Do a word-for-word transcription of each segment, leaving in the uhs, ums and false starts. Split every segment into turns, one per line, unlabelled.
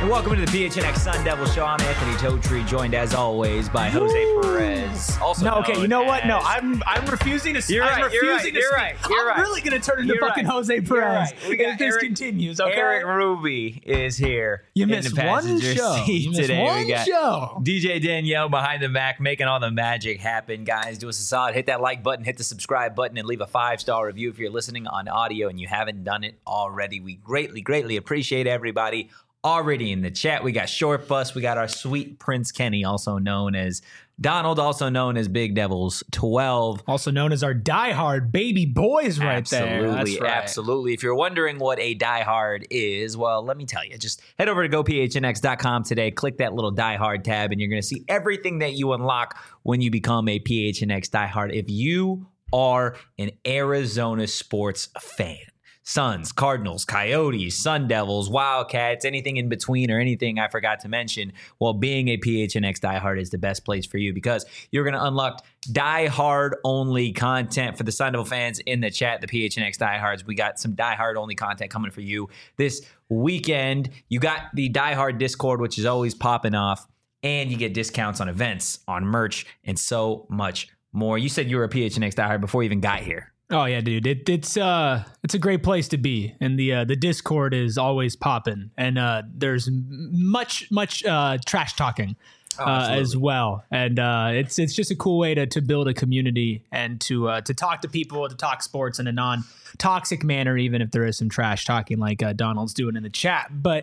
Welcome to the P H N X Sun Devil Show. I'm Anthony Totri, joined as always by Jose Perez. Also
no, okay, you know what?
as...
No, I'm I'm refusing to.
You're
I'm
right. You're
refusing
right.
to
You're
speak.
right. You're
I'm
right.
really gonna turn into
You're
fucking
right.
Jose Perez
You're right. We got
if this
Eric,
continues. Okay,
Eric Ruby is here.
You
in
missed
the
one
passenger
show.
seat
You missed
today.
one
we got
show.
D J Danielle behind the Mac, making all the magic happen. Guys, do us a solid. Hit that like button, hit the subscribe button, and leave a five star review if you're listening on audio and you haven't done it already. We greatly, greatly appreciate everybody. Already in the chat, we got Short Bus, we got our sweet Prince Kenny, also known as Donald, also known as Big Devils twelve.
Also known as our diehard baby boys right
absolutely,
there. That's right.
Absolutely. If you're wondering what a diehard is, well, let me tell you. Just head over to go P H N X dot com today, click that little diehard tab, and you're going to see everything that you unlock when you become a P H N X diehard. If you are an Arizona sports fan, Suns, Cardinals, Coyotes, Sun Devils, Wildcats, anything in between or anything I forgot to mention, well, being a P H N X diehard is the best place for you because you're going to unlock diehard-only content for the Sun Devil fans in the chat, the P H N X diehards. We got some diehard-only content coming for you this weekend. You got the diehard Discord, which is always popping off, and you get discounts on events, on merch, and so much more. You said you were a P H N X diehard before you even got here.
Oh yeah, dude. It, it's uh, it's a great place to be, and the uh, the Discord is always popping, and uh, there's much much uh, trash talking
Oh,
uh, as well, and uh, it's it's just a cool way to to build a community and to uh, to talk to people, to talk sports in a non toxic manner, even if there is some trash talking like uh, Donald's doing in the chat. But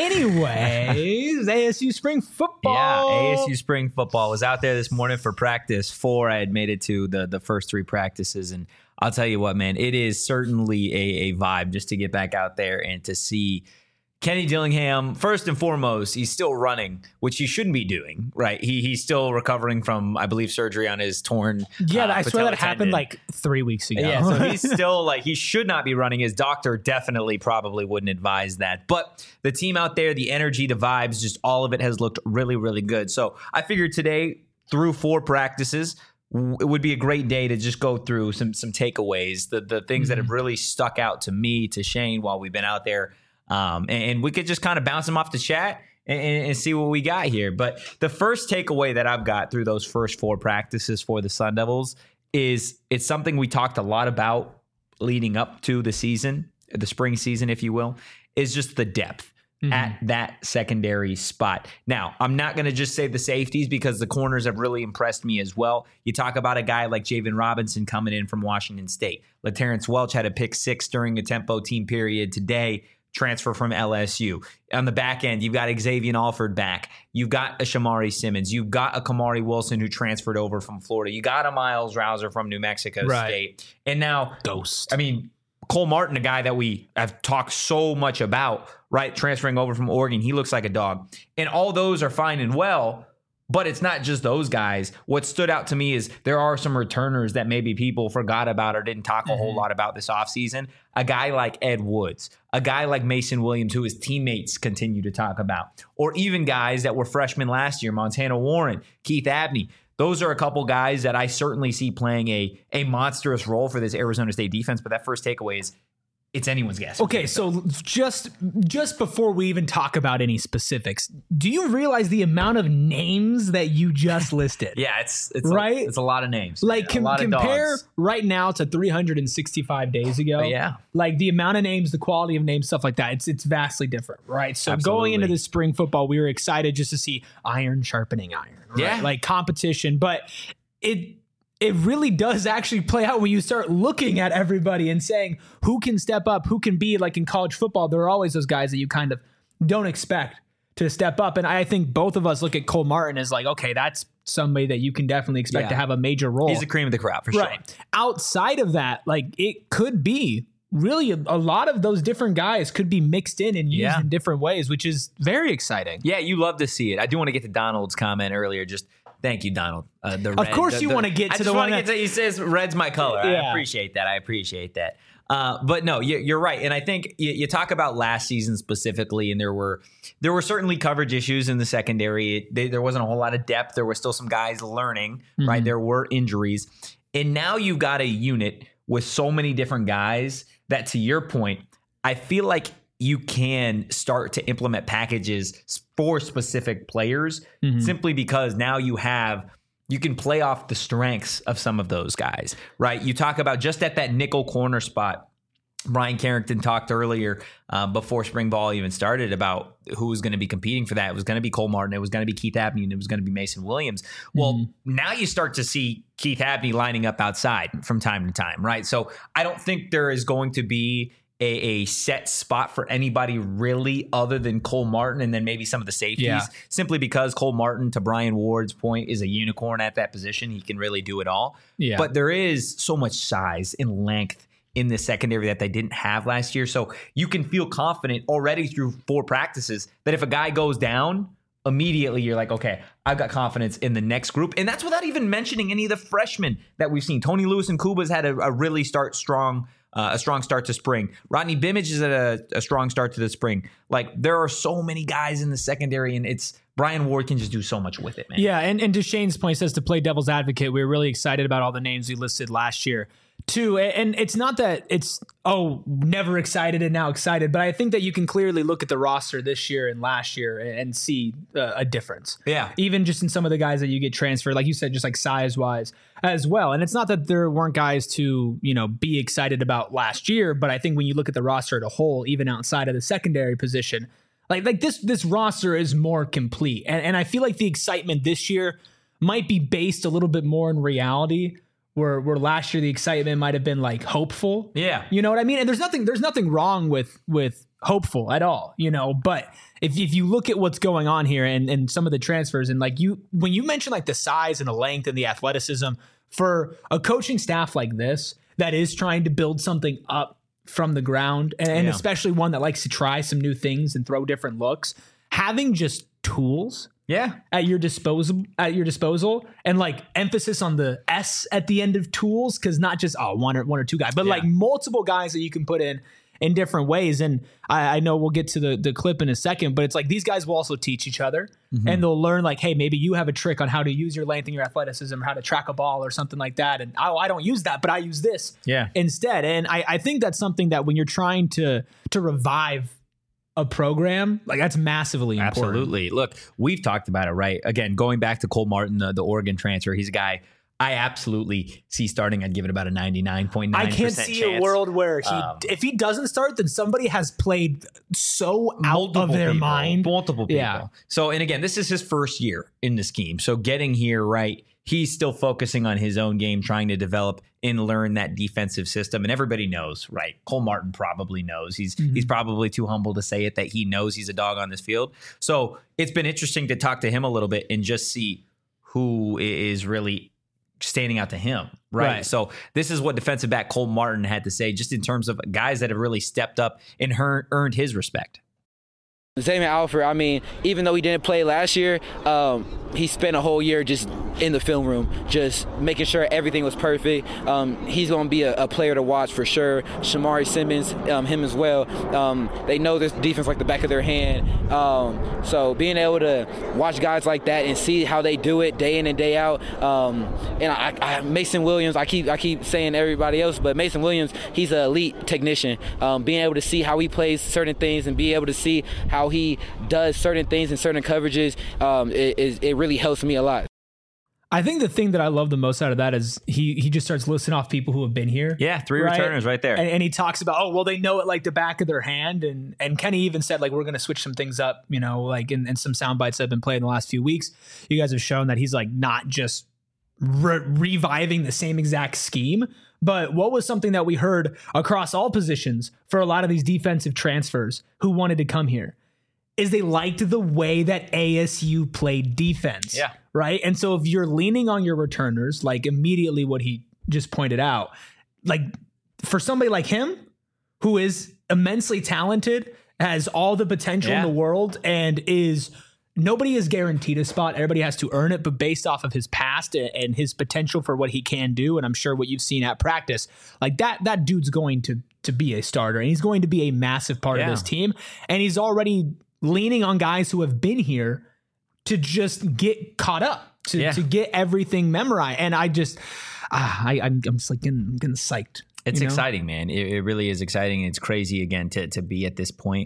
anyways, A S U spring football.
Yeah, A S U spring football was out there this morning for practice four. I had made it to the the first three practices, and I'll tell you what, man, it is certainly a, a vibe just to get back out there and to see Kenny Dillingham. First and foremost, he's still running, which he shouldn't be doing, right? He He's still recovering from, I believe, surgery on his torn
Yeah,
uh,
I swear that happened
tendon.
like three weeks ago.
Yeah, so he's still like, he should not be running. His doctor definitely probably wouldn't advise that. But the team out there, the energy, the vibes, just all of it has looked really, really good. So I figured today, through four practices, it would be a great day to just go through some some takeaways, the the things mm-hmm. that have really stuck out to me, to Shane, while we've been out there. Um, and, and we could just kind of bounce them off the chat and, and see what we got here. But the first takeaway that I've got through those first four practices for the Sun Devils is it's something we talked a lot about leading up to the season, the spring season, if you will, is just the depth. Mm-hmm. At that secondary spot. Now, I'm not going to just say the safeties because the corners have really impressed me as well. You talk about a guy like Javen Robinson coming in from Washington State. LaTerrence Welch had a pick six during a tempo team period today, transfer from L S U. On the back end, you've got Xavier Alford back. You've got a Shamari Simmons. You've got a Kamari Wilson who transferred over from Florida. You got a Miles Rouser from New Mexico right. State. And now,
Ghost.
I mean, Cole Martin, a guy that we have talked so much about, right, transferring over from Oregon, he looks like a dog. And all those are fine and well, but it's not just those guys. What stood out to me is there are some returners that maybe people forgot about or didn't talk a mm-hmm. whole lot about this offseason. A guy like Ed Woods, a guy like Mason Williams, who his teammates continue to talk about, or even guys that were freshmen last year, Montana Warren, Keith Abney. Those are a couple guys that I certainly see playing a, a monstrous role for this Arizona State defense. But that first takeaway is it's anyone's guess.
Okay, so just just before we even talk about any specifics, do you realize the amount of names that you just listed?
Yeah, it's it's
right.
A, it's a lot of names.
Like com-
a lot
compare
of dogs.
Right now to three hundred sixty-five days ago.
But yeah,
like the amount of names, the quality of names, stuff like that. It's it's vastly different, right? So
Absolutely.
Going into the spring football, we were excited just to see iron sharpening iron. Right?
Yeah,
like competition, but it. It really does actually play out when you start looking at everybody and saying who can step up, who can be like in college football. There are always those guys that you kind of don't expect to step up. And I think both of us look at Cole Martin as like, okay, that's somebody that you can definitely expect
yeah.
to have a major role.
He's the cream of the crop for
right.
sure.
Outside of that, like it could be really a, a lot of those different guys could be mixed in and used
yeah.
in different ways, which is very exciting.
Yeah, you love to see it. I do want to get to Donald's comment earlier. Just thank you, Donald. Uh, the
of
red,
course,
the,
you
the,
want to get
I
to
just
the one
that, get to, he says red's my color.
Yeah.
I appreciate that. I appreciate that. Uh, but no, you, you're right, and I think you, you talk about last season specifically, and there were there were certainly coverage issues in the secondary. It, they, there wasn't a whole lot of depth. There were still some guys learning. Mm-hmm. Right, there were injuries, and now you've got a unit with so many different guys that, to your point, I feel like you can start to implement packages for specific players mm-hmm. simply because now you have you can play off the strengths of some of those guys, right? You talk about just at that nickel corner spot. Brian Carrington talked earlier uh, before spring ball even started about who was going to be competing for that. It was going to be Cole Martin. It was going to be Keith Abney, and it was going to be Mason Williams. Well, mm-hmm. now you start to see Keith Abney lining up outside from time to time, right? So I don't think there is going to be a, a set spot for anybody really other than Cole Martin and then maybe some of the safeties, yeah. simply because Cole Martin, to Brian Ward's point, is a unicorn at that position. He can really do it all. Yeah. But there is so much size and length in the secondary that they didn't have last year. So you can feel confident already through four practices that if a guy goes down, immediately you're like, okay, I've got confidence in the next group. And that's without even mentioning any of the freshmen that we've seen. Tony Lewis and Kuba's had a, a really start strong, uh, a strong start to spring. Rodney Bimage is at a, a strong start to the spring. Like, there are so many guys in the secondary, and it's Brian Ward can just do so much with it, man.
Yeah, and, and to Shane's point, says to play devil's advocate, we were really excited about all the names we listed last year. Too, and it's not that it's, oh, never excited and now excited, but I think that you can clearly look at the roster this year and last year and see uh, a difference.
Yeah.
Even just in some of the guys that you get transferred, like you said, just like size-wise as well. And it's not that there weren't guys to, you know, be excited about last year, but I think when you look at the roster as a whole, even outside of the secondary position, like like this this roster is more complete. And, and I feel like the excitement this year might be based a little bit more in reality, Where, where last year the excitement might have been like hopeful.
Yeah.
You know what I mean? And there's nothing there's nothing wrong with with hopeful at all, you know, but if if you look at what's going on here and, and some of the transfers and like you when you mention like the size and the length and the athleticism for a coaching staff like this that is trying to build something up from the ground and, and yeah. especially one that likes to try some new things and throw different looks, having just tools
Yeah,
at your disposal, at your disposal, and like emphasis on the S at the end of tools, because not just oh one or one or two guys, but yeah. like multiple guys that you can put in in different ways. And I, I know we'll get to the the clip in a second, but it's like these guys will also teach each other, mm-hmm. and they'll learn like, hey, maybe you have a trick on how to use your length and your athleticism, or how to track a ball or something like that, and oh, I don't use that, but I use this
yeah.
instead. And I, I think that's something that when you're trying to to revive a program, like that's massively important.
Absolutely. Look, we've talked about it, right? Again, going back to Cole Martin, the, the Oregon transfer, he's a guy I absolutely see starting. I'd give it about a ninety-nine point nine percent
I can't see
chance.
a world where he, um, if he doesn't start, then somebody has played so out of their
people,
mind.
Multiple people.
Yeah.
So, and again, this is his first year in the scheme. So getting here, right, he's still focusing on his own game, trying to develop and learn that defensive system. And everybody knows, right? Cole Martin probably knows. He's mm-hmm. he's probably too humble to say it, that he knows he's a dog on this field. So it's been interesting to talk to him a little bit and just see who is really standing out to him, right?
Right.
So this is what defensive back Cole Martin had to say, just in terms of guys that have really stepped up and earned, earned his respect.
Xavier Alford, I mean, even though he didn't play last year, um, he spent a whole year just in the film room, just making sure everything was perfect. Um, he's going to be a, a player to watch for sure. Shamari Simmons, um, him as well. Um, they know this defense like the back of their hand. Um, so being able to watch guys like that and see how they do it day in and day out. Um, and I, I, Mason Williams, I keep I keep saying everybody else, but Mason Williams, he's an elite technician. Um, being able to see how he plays certain things and be able to see how he does certain things in certain coverages, um, it, it, it really helps me a lot.
I think the thing that I love the most out of that is he he just starts listing off people who have been here.
Yeah, three right? returners right there.
And, and he talks about, oh, well, they know it like the back of their hand. And and Kenny even said, like, we're going to switch some things up, you know, like in, in some sound bites that have been played in the last few weeks. You guys have shown that he's like not just re- reviving the same exact scheme. But what was something that we heard across all positions for a lot of these defensive transfers who wanted to come here is they liked the way that A S U played defense.
Yeah.
Right. And so if you're leaning on your returners, like immediately what he just pointed out, like for somebody like him, who is immensely talented, has all the potential yeah. in the world, and is nobody is guaranteed a spot. Everybody has to earn it. But based off of his past and his potential for what he can do, and I'm sure what you've seen at practice, like that, that dude's going to, to be a starter, and he's going to be a massive part yeah. of this team. And he's already leaning on guys who have been here to just get caught up, to, yeah. to get everything memorized. And I just, ah, I, I'm, I'm just like getting, I'm getting psyched.
It's
you know?
exciting, man. It, it really is exciting. It's crazy again to to be at this point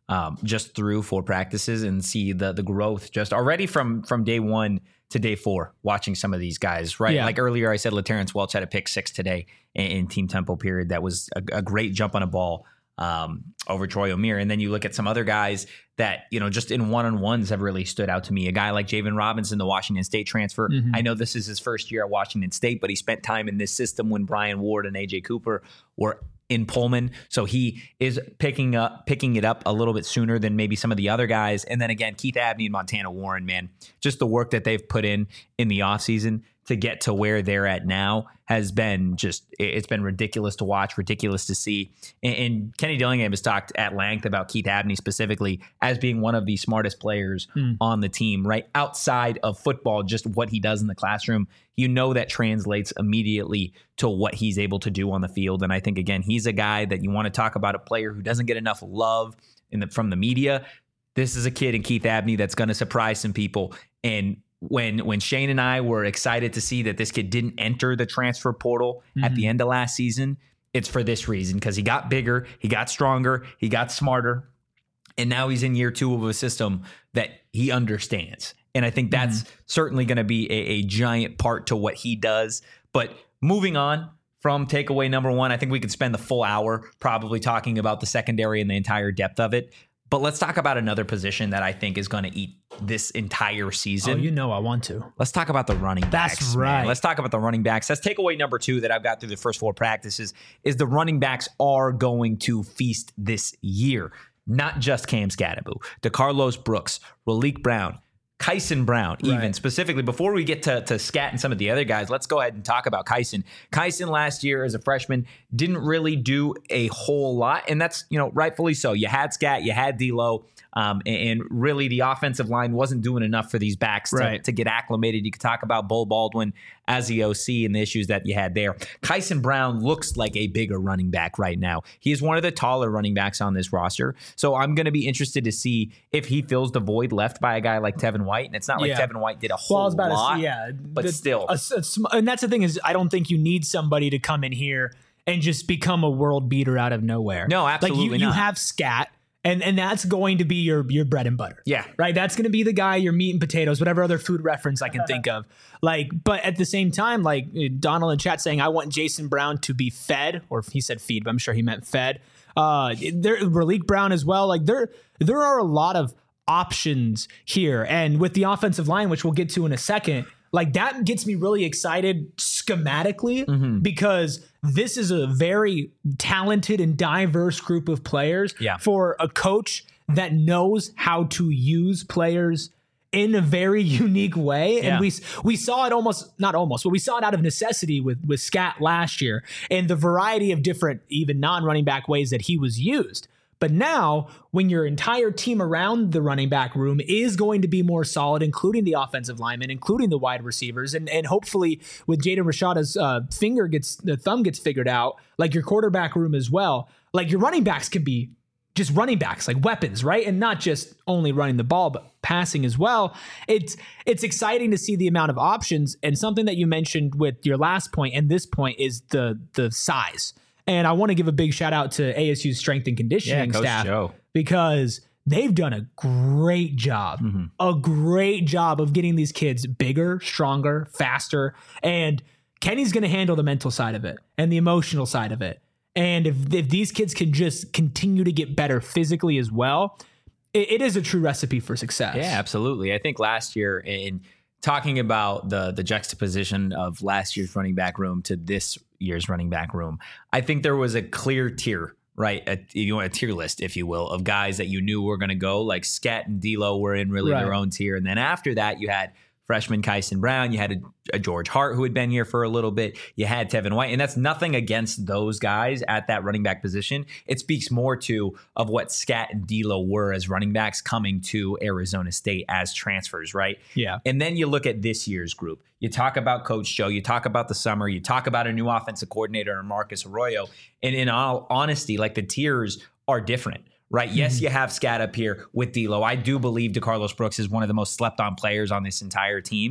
um, just through four practices and see the the growth just already from from day one to day four, watching some of these guys, right?
Yeah.
Like earlier I said, LaTerrence Welch had a pick six today in, in team tempo period. That was a, a great jump on a ball um, over Troy O'Meara. And then you look at some other guys that, you know, just in one-on-ones have really stood out to me. A guy like Javen Robinson, the Washington State transfer. Mm-hmm. I know this is his first year at Washington State, but he spent time in this system when Brian Ward and A J Cooper were in Pullman. So he is picking up, picking it up a little bit sooner than maybe some of the other guys. And then again, Keith Abney and Montana Warren, man, just the work that they've put in in the offseason to get to where they're at now has been just, it's been ridiculous to watch, ridiculous to see. And, and Kenny Dillingham has talked at length about Keith Abney specifically as being one of the smartest players mm. on the team, right? Outside of football, just what he does in the classroom, you know, that translates immediately to what he's able to do on the field. And I think, again, he's a guy that you want to talk about, a player who doesn't get enough love in the, from the media. This is a kid in Keith Abney that's going to surprise some people. And when when Shane and I were excited to see that this kid didn't enter the transfer portal mm-hmm. at the end of last season, it's for this reason, because he got bigger, he got stronger, he got smarter, and now he's in year two of a system that he understands. And I think that's mm-hmm. certainly going to be a, a giant part to what he does. But moving on from takeaway number one, I think we could spend the full hour probably talking about the secondary and the entire depth of it. But let's talk about another position that I think is going to eat this entire season.
Oh, you know I want to.
Let's talk about the running backs.
That's right.
Man. Let's talk about the running backs. That's takeaway number two that I've got through the first four practices is the running backs are going to feast this year. Not just Cam Skattebo, DeCarlos Brooks, Raleek Brown, Kyson Brown, even right. specifically. Before we get to, to Scat and some of the other guys, let's go ahead and talk about Kyson. Kyson last year as a freshman didn't really do a whole lot, and that's, you know, rightfully so. You had Scat, you had D'Lo, um, and, and really the offensive line wasn't doing enough for these backs to,
right.
to get acclimated. You could talk about Bo Baldwin as the O C and the issues that you had there. Kyson Brown looks like a bigger running back right now. He is one of the taller running backs on this roster, so I'm going to be interested to see if he fills the void left by a guy like Tevin White. And it's not like yeah. Tevin White did a whole
well, I was about
lot,
to say, yeah,
but
the,
still.
A, a, and that's the thing is I don't think you need somebody to come in here and just become a world beater out of nowhere.
No, absolutely
like you,
not.
You have Scat, and, and that's going to be your, your bread and butter.
Yeah.
Right? That's going to be the guy, your meat and potatoes, whatever other food reference I can think of. Like, but at the same time, like Donald in chat saying, I want Jason Brown to be fed, or he said feed, but I'm sure he meant fed. Uh, there, Raleek Brown as well. Like there, there are a lot of options here. And with the offensive line, which we'll get to in a second, like that gets me really excited schematically mm-hmm. because this is a very talented and diverse group of players
yeah.
for a coach that knows how to use players in a very unique way.
Yeah.
And we we saw it almost, not almost, but we saw it out of necessity with, with Scat last year and the variety of different, even non-running back ways that he was used. But now, when your entire team around the running back room is going to be more solid, including the offensive linemen, including the wide receivers, and, and hopefully with Jaden Rashada's uh, finger gets, the thumb gets figured out, like your quarterback room as well, like your running backs can be just running backs, like weapons, right? And not just only running the ball, but passing as well. It's it's exciting to see the amount of options. And something that you mentioned with your last point and this point is the the size. And I want to give a big shout out to A S U's strength and conditioning
yeah, Coach
staff
Joe.
Because they've done a great job, mm-hmm. a great job of getting these kids bigger, stronger, faster. And Kenny's going to handle the mental side of it and the emotional side of it. And if, if these kids can just continue to get better physically as well, it, it is a true recipe for success.
Yeah, absolutely. I think last year in talking about the the juxtaposition of last year's running back room to this year's running back room, I think there was a clear tier, right? A, you know, a tier list, if you will, of guys that you knew were going to go. Like Scat and D'Lo were in really right. their own tier. And then after that, you had freshman Kyson Brown, you had a, a George Hart who had been here for a little bit, you had Tevin White, and that's nothing against those guys at that running back position. It speaks more to of what Scat and D'Lo were as running backs coming to Arizona State as transfers, right?
Yeah.
And then you look at this year's group. You talk about Coach Joe, you talk about the summer, you talk about a new offensive coordinator, Marcus Arroyo, and in all honesty, like the tiers are different. Right. Yes, mm-hmm. you have Scat up here with D'Lo. I do believe DeCarlos Brooks is one of the most slept on players on this entire team.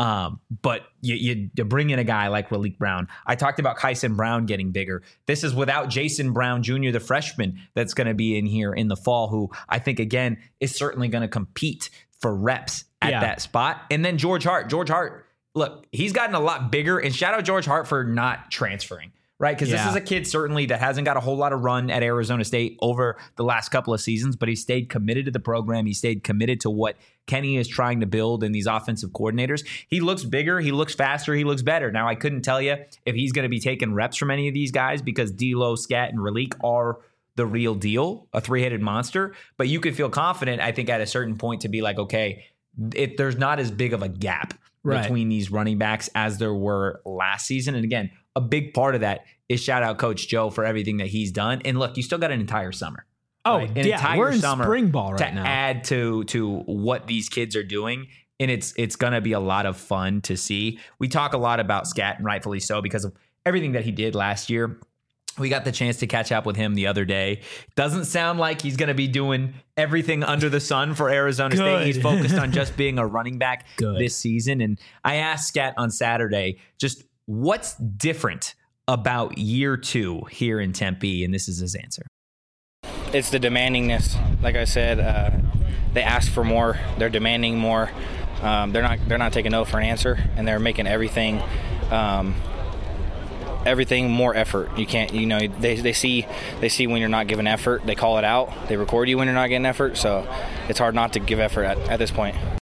Um, but you, you, you bring in a guy like Raleek Brown. I talked about Kyson Brown getting bigger. This is without Jason Brown Junior, the freshman that's going to be in here in the fall, who I think, again, is certainly going to compete for reps at
Yeah.
that spot. And then George Hart. George Hart, look, he's gotten a lot bigger. And shout out George Hart for not transferring. Right, because
Yeah.
this is a kid certainly that hasn't got a whole lot of run at Arizona State over the last couple of seasons, but he stayed committed to the program. He stayed committed to what Kenny is trying to build in these offensive coordinators. He looks bigger, he looks faster, he looks better. Now, I couldn't tell you if he's going to be taking reps from any of these guys because D'Lo, Scat, and Raleek are the real deal, a three-headed monster. But you could feel confident, I think, at a certain point to be like, okay, if there's not as big of a gap
Right.
between these running backs as there were last season. And again, a big part of that is shout out Coach Joe for everything that he's done. And look, you still got an entire summer.
Oh,
right? An
yeah,
entire
we're in
summer
spring ball right
to
now.
add to to what these kids are doing. And it's it's going to be a lot of fun to see. We talk a lot about Scat, and rightfully so, because of everything that he did last year. We got the chance to catch up with him the other day. Doesn't sound like he's going to be doing everything under the sun for Arizona State.
Good.
He's focused on just being a running back
Good.
this season. And I asked Scat on Saturday, just what's different about year two here in Tempe? And this is his answer.
It's the demandingness. Like I said, uh, they ask for more. They're demanding more. Um, they're not. They're not taking no for an answer, and they're making everything. Um, everything more effort. You can't, you know, they they see they see when you're not giving effort, they call it out. They record you when you're not getting effort, so it's hard not to give effort at, at this point.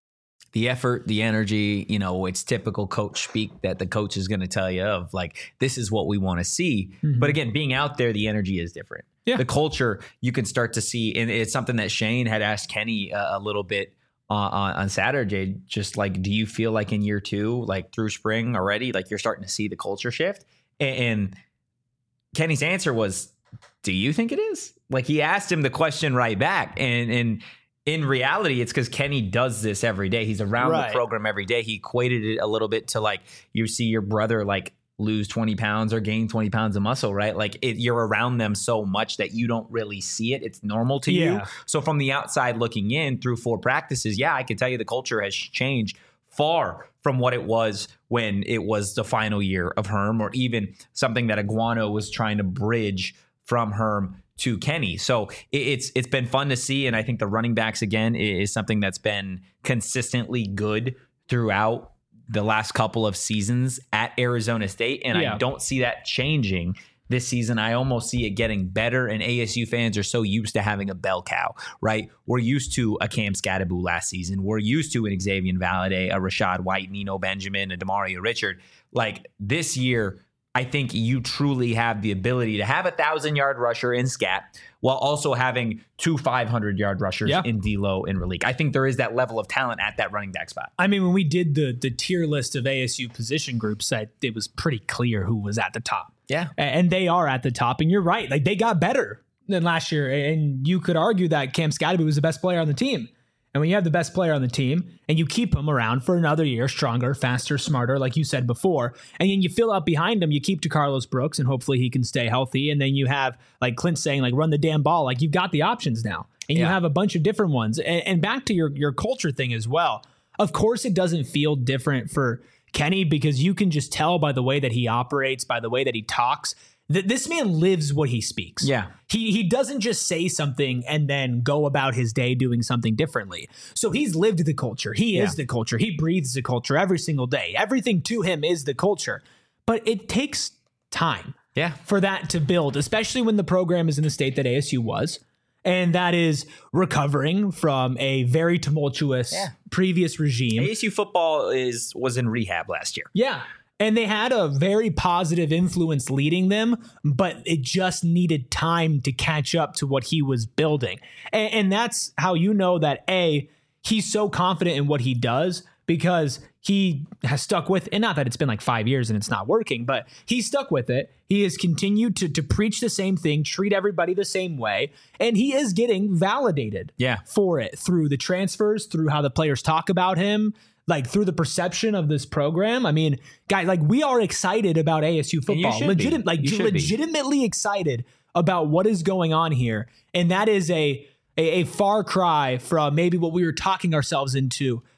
The effort, the energy, you know, it's typical coach speak that the coach is going to tell you of, like, this is what we want to see.
Mm-hmm.
But again, being out there, the energy is different.
Yeah.
The culture, you can start to see, and it's something that Shane had asked Kenny uh, a little bit uh, on, on Saturday, just like, do you feel like in year two, like through spring already, like you're starting to see the culture shift? And, and Kenny's answer was, do you think it is? Like, he asked him the question right back. And, and, in reality, it's because Kenny does this every day. He's around
Right.
the program every day. He equated it a little bit to, like, you see your brother like lose twenty pounds or gain twenty pounds of muscle, right? Like, it, you're around them so much that you don't really see it. It's normal to you.
Yeah.
So from the outside looking in through four practices, yeah, I can tell you the culture has changed far from what it was when it was the final year of Herm, or even something that Iguano was trying to bridge from Herm to Kenny. So it, it's it's been fun to see, and I think the running backs again is something that's been consistently good throughout the last couple of seasons at Arizona State, and
Yeah.
I don't see that changing this season. I almost see it getting better, and A S U fans are so used to having a bell cow, right? We're used to a Cam Scatteraboo last season. We're used to an Xavier Valade, a Rashad White, Nino Benjamin, a Demario Richard. Like, this year, I think you truly have the ability to have a thousand-yard rusher in Scat while also having two five hundred-yard rushers
Yeah.
in D'Lo and Raleek. I think there is that level of talent at that running back spot.
I mean, when we did the the tier list of A S U position groups, that it was pretty clear who was at the top.
Yeah.
A- And they are at the top. And you're right. Like, they got better than last year. And you could argue that Cam Scatteraboo was the best player on the team. And when you have the best player on the team and you keep him around for another year, stronger, faster, smarter, like you said before, and then you fill out behind him, you keep to Carlos Brooks, and hopefully he can stay healthy. And then you have, like Clint saying, like, run the damn ball. Like, you've got the options now. And you
Yeah.
have a bunch of different ones. And, and back to your, your culture thing as well. Of course, it doesn't feel different for Kenny, because you can just tell by the way that he operates, by the way that he talks, that this man lives what he speaks.
Yeah.
He he doesn't just say something and then go about his day doing something differently. So he's lived the culture. He is
Yeah.
the culture. He breathes the culture every single day. Everything to him is the culture. But it takes time
Yeah.
for that to build, especially when the program is in the state that A S U was. And that is recovering from a very tumultuous
Yeah.
previous regime.
A S U football is was in rehab last year.
Yeah. And they had a very positive influence leading them, but it just needed time to catch up to what he was building. And, and that's how you know that, A, he's so confident in what he does, because he has stuck with, and not that it's been like five years and it's not working, but he's stuck with it. He has continued to, to preach the same thing, treat everybody the same way, and he is getting validated
Yeah.
for it through the transfers, through how the players talk about him, like through the perception of this program. I mean, guys, like, we are excited about A S U
And you
football,
should be.
legit, like
You should be.
legitimately excited about what is going on here. And that is a, a, a far cry from maybe what we were talking ourselves into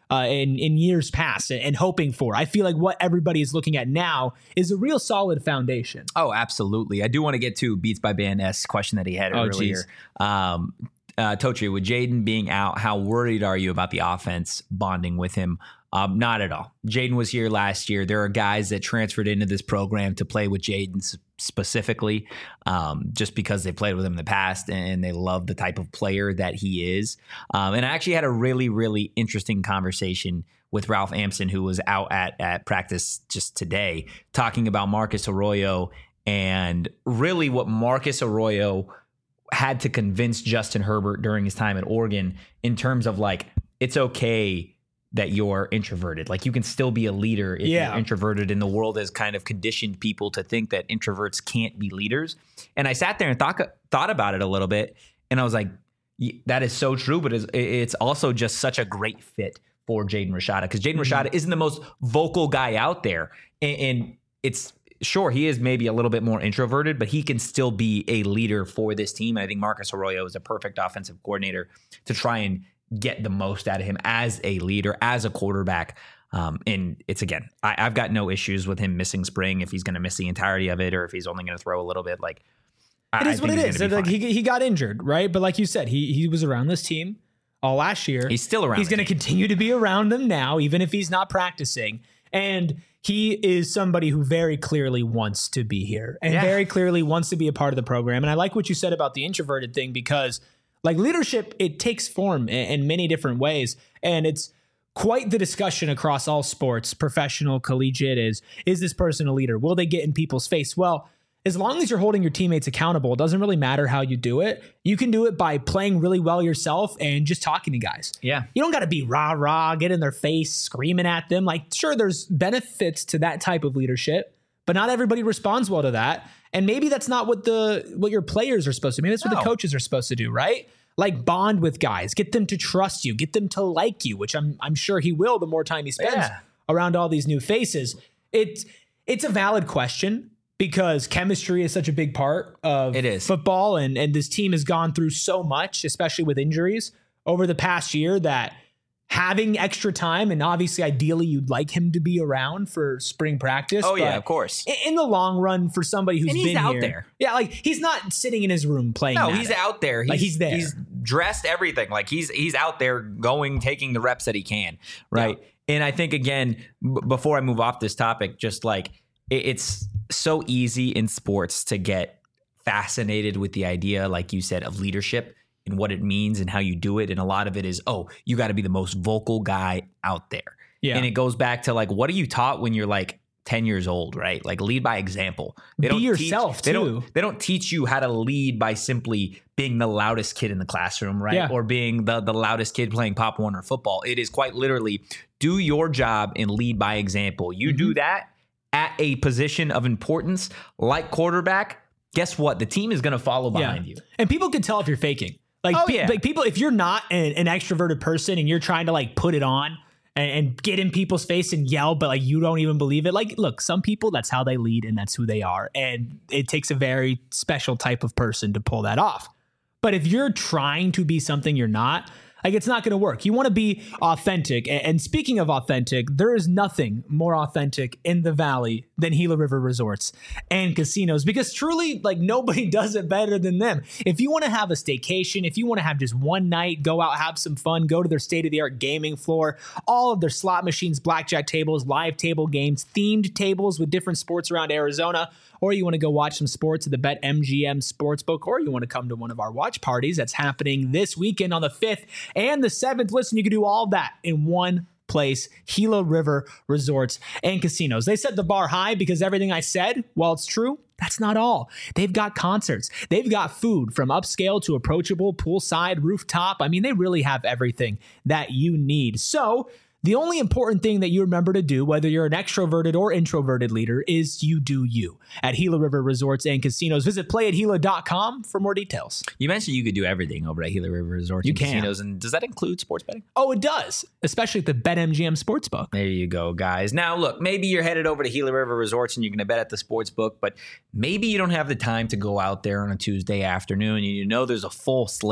uh, in, in years past and, and hoping for. I feel like what everybody is looking at now is a real solid foundation.
Oh, absolutely. I do want to get to Beats by Band-esque question that he had
Oh,
earlier. Um, uh, Totri, with Jaden being out, how worried are you about the offense bonding with him? Um, not at all. Jaden was here last year. There are guys that transferred into this program to play with Jaden specifically, um, just because they played with him in the past and they love the type of player that he is. Um, and I actually had a really, really interesting conversation with Ralph Ampson, who was out at, at practice just today, talking about Marcus Arroyo and really what Marcus Arroyo had to convince Justin Herbert during his time at Oregon in terms of like, it's okay that you're introverted. Like you can still be a leader if
Yeah.
you're introverted, and the world has kind of conditioned people to think that introverts can't be leaders. And I sat there and thought thought about it a little bit, and I was like, that is so true, but it's, it's also just such a great fit for Jaden Rashada, because Jaden mm-hmm. Rashada isn't the most vocal guy out there. And, and it's sure he is maybe a little bit more introverted, but he can still be a leader for this team. And I think Marcus Arroyo is a perfect offensive coordinator to try and get the most out of him as a leader, as a quarterback. Um, and it's, again, I, I've got no issues with him missing spring if he's going to miss the entirety of it, or if he's only going to throw a little bit. Like,
it is what it is. Like he he got injured, right? But like you said, he he was around this team all last year.
He's still around.
He's going to continue to be around them now, even if he's not practicing. And he is somebody who very clearly wants to be here and
yeah.
very clearly wants to be a part of the program. And I like what you said about the introverted thing, because like leadership, it takes form in, in many different ways. And it's quite the discussion across all sports, professional, collegiate, is, is this person a leader? Will they get in people's face? Well, as long as you're holding your teammates accountable, it doesn't really matter how you do it. You can do it by playing really well yourself and just talking to guys.
Yeah.
You don't got to be rah, rah, get in their face, screaming at them. Like, sure, there's benefits to that type of leadership, but not everybody responds well to that. And maybe that's not what the what your players are supposed to do. Maybe that's what
No.
the coaches are supposed to do, right? Like bond with guys, get them to trust you, get them to like you, which I'm I'm sure he will the more time he spends
Yeah.
around all these new faces. It's it's a valid question, because chemistry is such a big part of
It is.
football, and and this team has gone through so much, especially with injuries over the past year, that having extra time, and obviously ideally you'd like him to be around for spring practice.
Oh, yeah,
but
of course.
In, in the long run, for somebody who's
And he's
been
out
here-
there.
Yeah, like he's not sitting in his room playing.
No,
Madden.
he's out there. He's,
Like, he's there.
He's dressed everything. Like he's he's out there going, taking the reps that he can. Right. Yeah. And I think, again, b- before I move off this topic, just like it, it's so easy in sports to get fascinated with the idea, like you said, of leadership and what it means and how you do it. And a lot of it is, oh, you got to be the most vocal guy out there.
Yeah.
And it goes back to like, what are you taught when you're like ten years old, right? Like lead by example. They
Be
don't
yourself,
teach, they
too.
Don't, they don't teach you how to lead by simply being the loudest kid in the classroom, right?
Yeah.
Or being the, the loudest kid playing Pop Warner football. It is quite literally do your job and lead by example. You
Mm-hmm.
do that at a position of importance like quarterback, guess what? The team is going to follow behind you.
And people can tell if you're faking. Like,
Oh,
pe-
yeah.
like people, if you're not an, an extroverted person and you're trying to like put it on and, and get in people's face and yell, but like you don't even believe it. Like, look, some people, that's how they lead and that's who they are. And it takes a very special type of person to pull that off. But if you're trying to be something you're not, like it's not going to work. You want to be authentic. And, and speaking of authentic, there is nothing more authentic in the Valley than Gila River Resorts and Casinos, because truly, like nobody does it better than them. If you want to have a staycation, if you want to have just one night, go out, have some fun, go to their state-of-the-art gaming floor, all of their slot machines, blackjack tables, live table games, themed tables with different sports around Arizona, or you want to go watch some sports at the BetMGM Sportsbook, or you want to come to one of our watch parties that's happening this weekend on the fifth and the seventh. Listen, you can do all of that in one place, Gila River Resorts and Casinos. They set the bar high because everything I said, while it's true, that's not all. They've got concerts. They've got food from upscale to approachable, poolside, rooftop. I mean, they really have everything that you need. So the only important thing that you remember to do, whether you're an extroverted or introverted leader, is you do you. At Gila River Resorts and Casinos, visit play at gila dot com for more details.
You mentioned you could do everything over at Gila River Resorts
You
and
can.
Casinos. And does that include sports betting?
Oh, it does, especially at the BetMGM Sportsbook.
There you go, guys. Now, look, maybe you're headed over to Gila River Resorts and you're going to bet at the sports book, but maybe you don't have the time to go out there on a Tuesday afternoon and you know there's a full slate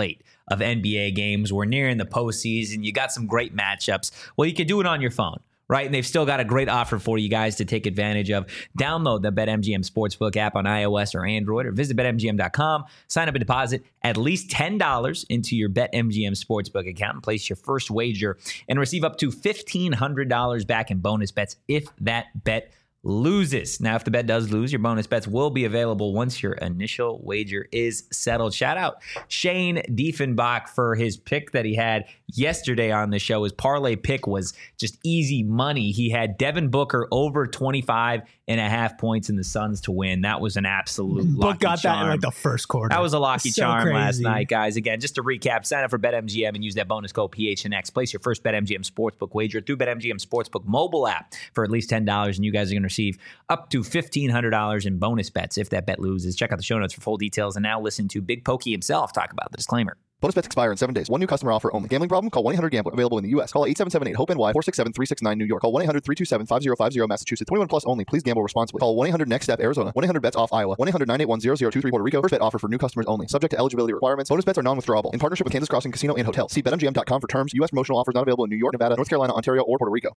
of N B A games. We're nearing the postseason. You got some great matchups. Well, you can do it on your phone, right? And they've still got a great offer for you guys to take advantage of. Download the BetMGM Sportsbook app on iOS or Android, or visit bet M G M dot com. Sign up and deposit at least ten dollars into your BetMGM Sportsbook account and place your first wager and receive up to fifteen hundred dollars back in bonus bets if that bet loses. Now, if the bet does lose, your bonus bets will be available once your initial wager is settled. Shout out Shane Diefenbach for his pick that he had yesterday on the show. His parlay pick was just easy money. He had Devin Booker over twenty-five and a half points in the Suns to win. That was an absolute
Book
lucky
got
charm.
that in like the first quarter.
That was a lucky
So
charm
crazy.
last night, guys. Again, just to recap, sign up for BetMGM and use that bonus code P H N X. Place your first BetMGM Sportsbook wager through BetMGM Sportsbook mobile app for at least ten dollars, and you guys are going to receive up to fifteen hundred dollars in bonus bets if that bet loses. Check out the show notes for full details, and now listen to Big Pokey himself talk about the disclaimer.
Bonus bets expire in seven days. One new customer offer only. Gambling problem? Call one eight hundred gambler. Available in the U S. Call eight seven seven eight hope N Y four six seven three six nine New York. Call one eight hundred three two seven five zero five zero Massachusetts. twenty-one plus only. Please gamble responsibly. Call one eight hundred next step Arizona. one eight hundred bets off Iowa. one eight hundred nine eight one zero zero two three Puerto Rico. First bet offer for new customers only. Subject to eligibility requirements. Bonus bets are non-withdrawable. In partnership with Kansas Crossing Casino and Hotel. See bet M G M dot com for terms. U S promotional offers not available in New York, Nevada, North Carolina, Ontario, or Puerto Rico.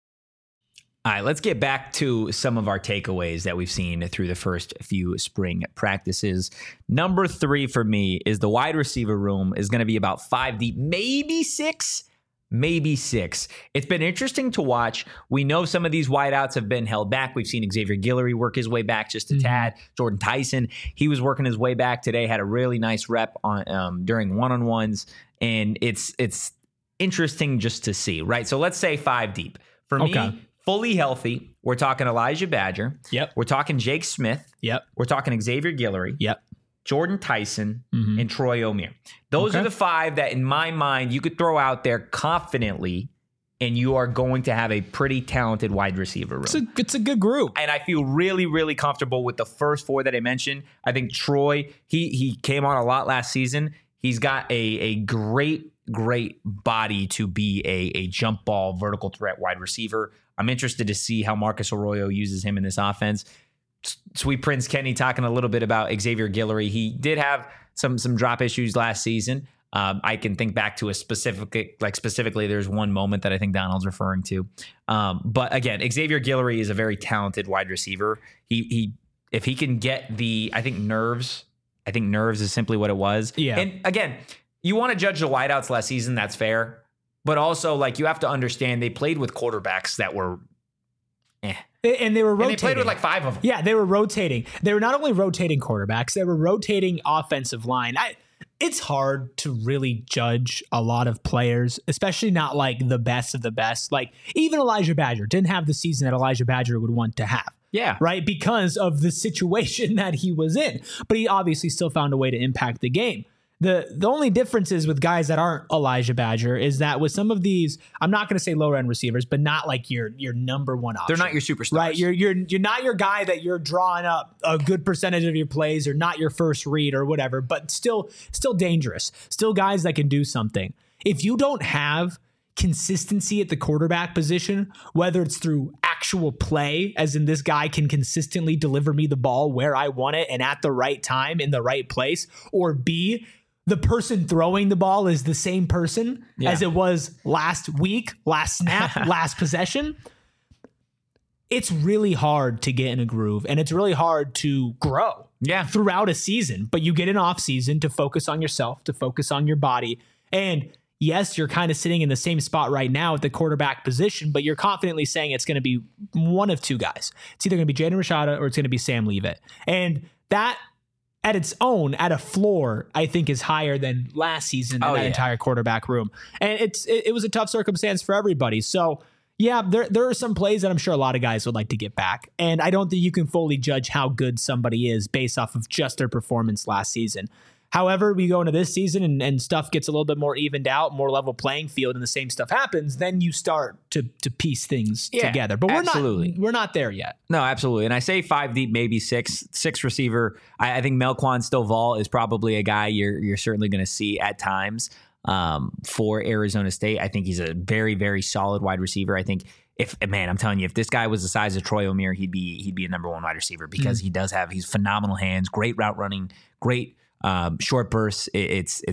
All right, let's get back to some of our takeaways that we've seen through the first few spring practices. Number three for me is the wide receiver room is going to be about five deep, maybe six, maybe six. It's been interesting to watch. We know some of these wideouts have been held back. We've seen Xavier Guillory work his way back just a mm-hmm. tad. Jordan Tyson, he was working his way back today, had a really nice rep on um, during one-on-ones, and it's it's interesting just to see, right? So let's say five deep. For
okay.
me, fully healthy, we're talking Elijah Badger.
Yep.
We're talking Jake Smith.
Yep.
We're talking Xavier Guillory.
Yep.
Jordan Tyson
mm-hmm.
and Troy Omeire. Those
okay.
are the five that, in my mind, you could throw out there confidently, and you are going to have a pretty talented wide receiver room.
It's a, it's a good group.
And I feel really, really comfortable with the first four that I mentioned. I think Troy, he he came on a lot last season. He's got a, a great, great body to be a, a jump ball, vertical threat wide receiver. I'm interested to see how Marcus Arroyo uses him in this offense. Sweet Prince Kenny talking a little bit about Xavier Guillory. He did have some some drop issues last season. Um, I can think back to a specific, like specifically, there's one moment that I think Donald's referring to. Um, but again, Xavier Guillory is a very talented wide receiver. He he, if he can get the, I think nerves. I think nerves is simply what it was.
Yeah.
And again, you want to judge the wideouts last season. That's fair. But also, like, you have to understand they played with quarterbacks that were eh.
And they were rotating.
And they played with like five of them.
Yeah, they were rotating. They were not only rotating quarterbacks, they were rotating offensive line. I, it's hard to really judge a lot of players, especially not like the best of the best. Like, even Elijah Badger didn't have the season that Elijah Badger would want to have.
Yeah.
Right? Because of the situation that he was in. But he obviously still found a way to impact the game. The the only difference is with guys that aren't Elijah Badger is that with some of these, I'm not going to say lower end receivers, but not like your your number one option.
They're not your superstars.
Right? You're you're you're not your guy that you're drawing up a good percentage of your plays, or not your first read or whatever, but still still dangerous. Still guys that can do something. If you don't have consistency at the quarterback position, whether it's through actual play, as in this guy can consistently deliver me the ball where I want it and at the right time in the right place, or B, the person throwing the ball is the same person yeah. as it was last week, last snap, last possession. It's really hard to get in a groove, and it's really hard to grow
yeah.
throughout a season. But you get an off season to focus on yourself, to focus on your body. And yes, you're kind of sitting in the same spot right now at the quarterback position, but you're confidently saying it's going to be one of two guys. It's either going to be Jaden Rashada or it's going to be Sam Leavitt. And that, at its own, at a floor, I think is higher than last season in
oh,
that
yeah.
entire quarterback room. And it's it, it was a tough circumstance for everybody. So yeah, there there are some plays that I'm sure a lot of guys would like to get back. And I don't think you can fully judge how good somebody is based off of just their performance last season. However, we go into this season and, and stuff gets a little bit more evened out, more level playing field, and the same stuff happens, then you start to to piece things
yeah,
together. But we're
absolutely.
not we're not there yet.
No, absolutely. And I say five deep, maybe six, six receiver. I, I think Melquan Stovall is probably a guy you're you're certainly going to see at times um, for Arizona State. I think he's a very, very solid wide receiver. I think if man, I'm telling you, if this guy was the size of Troy Omeire, he'd be he'd be a number one wide receiver because mm-hmm. he does have he's phenomenal hands, great route running, great. Um, short bursts, it, it's it's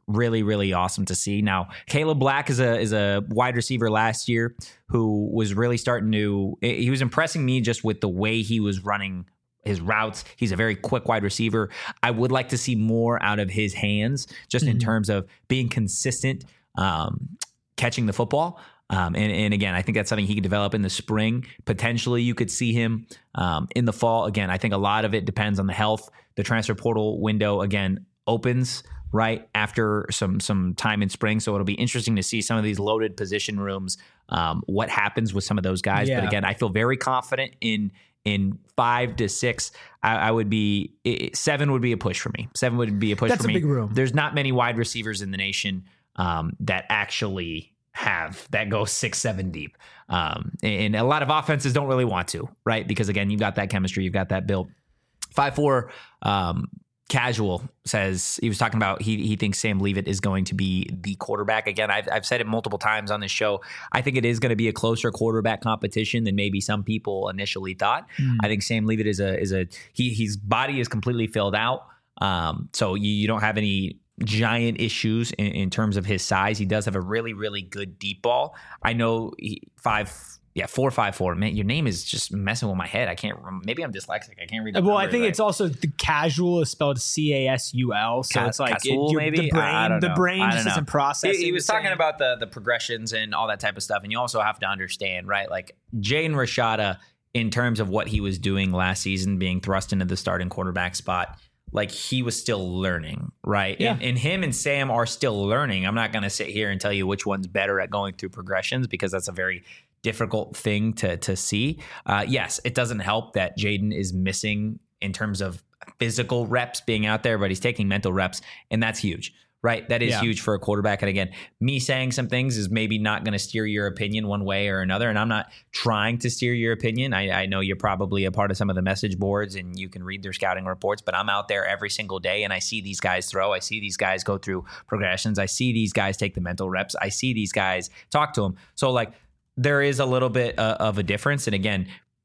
really, really awesome to see. Now, Caleb Black is a is a wide receiver last year who was really starting to, he was impressing me just with the way he was running his routes. He's a very quick wide receiver. I would like to see more out of his hands, just mm-hmm. in terms of being consistent, um, catching the football. Um, and, and again, I think that's something he could develop in the spring. Potentially, you could see him um, in the fall. Again, I think a lot of it depends on the health. The transfer portal window, again, opens right after some some time in spring. So it'll be interesting to see some of these loaded position rooms, um, what happens with some of those guys.
Yeah.
But again, I feel very confident in in five to six. I, I would be it, seven would be a push for me. Seven would be a push
That's
for me.
That's a big room.
There's not many wide receivers in the nation um, that actually have that go six, seven deep. Um, and a lot of offenses don't really want to, right? Because again, you've got that chemistry, you've got that built. Five, four, um, Casual says, he was talking about he he thinks Sam Leavitt is going to be the quarterback. Again, I've, I've said it multiple times on this show. I think it is going to be a closer quarterback competition than maybe some people initially thought. Mm. I think Sam Leavitt is a is a he his body is completely filled out. Um, so you, you don't have any giant issues in, in terms of his size. He does have a really, really good deep ball. I know he, five Yeah, four five four. Man, your name is just messing with my head. I can't. Maybe I'm dyslexic. I can't read. The
well, I think
right.
it's also the Casual is spelled C A S U L, so
Ca-
it's like
Casul,
it,
maybe
the brain.
I don't
the
know.
brain
I don't
just
know.
isn't processing.
He, he was
the
talking
same.
about the the progressions and all that type of stuff, and you also have to understand, right? Like Jaden Rashada, in terms of what he was doing last season, being thrust into the starting quarterback spot. Like he was still learning, right?
Yeah.
And, and him and Sam are still learning. I'm not going to sit here and tell you which one's better at going through progressions because that's a very difficult thing to to see. Uh, yes, it doesn't help that Jaden is missing in terms of physical reps being out there, but he's taking mental reps, and that's huge, right? That is
yeah.
huge for a quarterback. And again, me saying some things is maybe not going to steer your opinion one way or another, and I'm not trying to steer your opinion. I, I know you're probably a part of some of the message boards, and you can read their scouting reports, but I'm out there every single day, and I see these guys throw. I see these guys go through progressions. I see these guys take the mental reps. I see these guys talk to them. So, like, there is a little bit uh, of a difference. And again,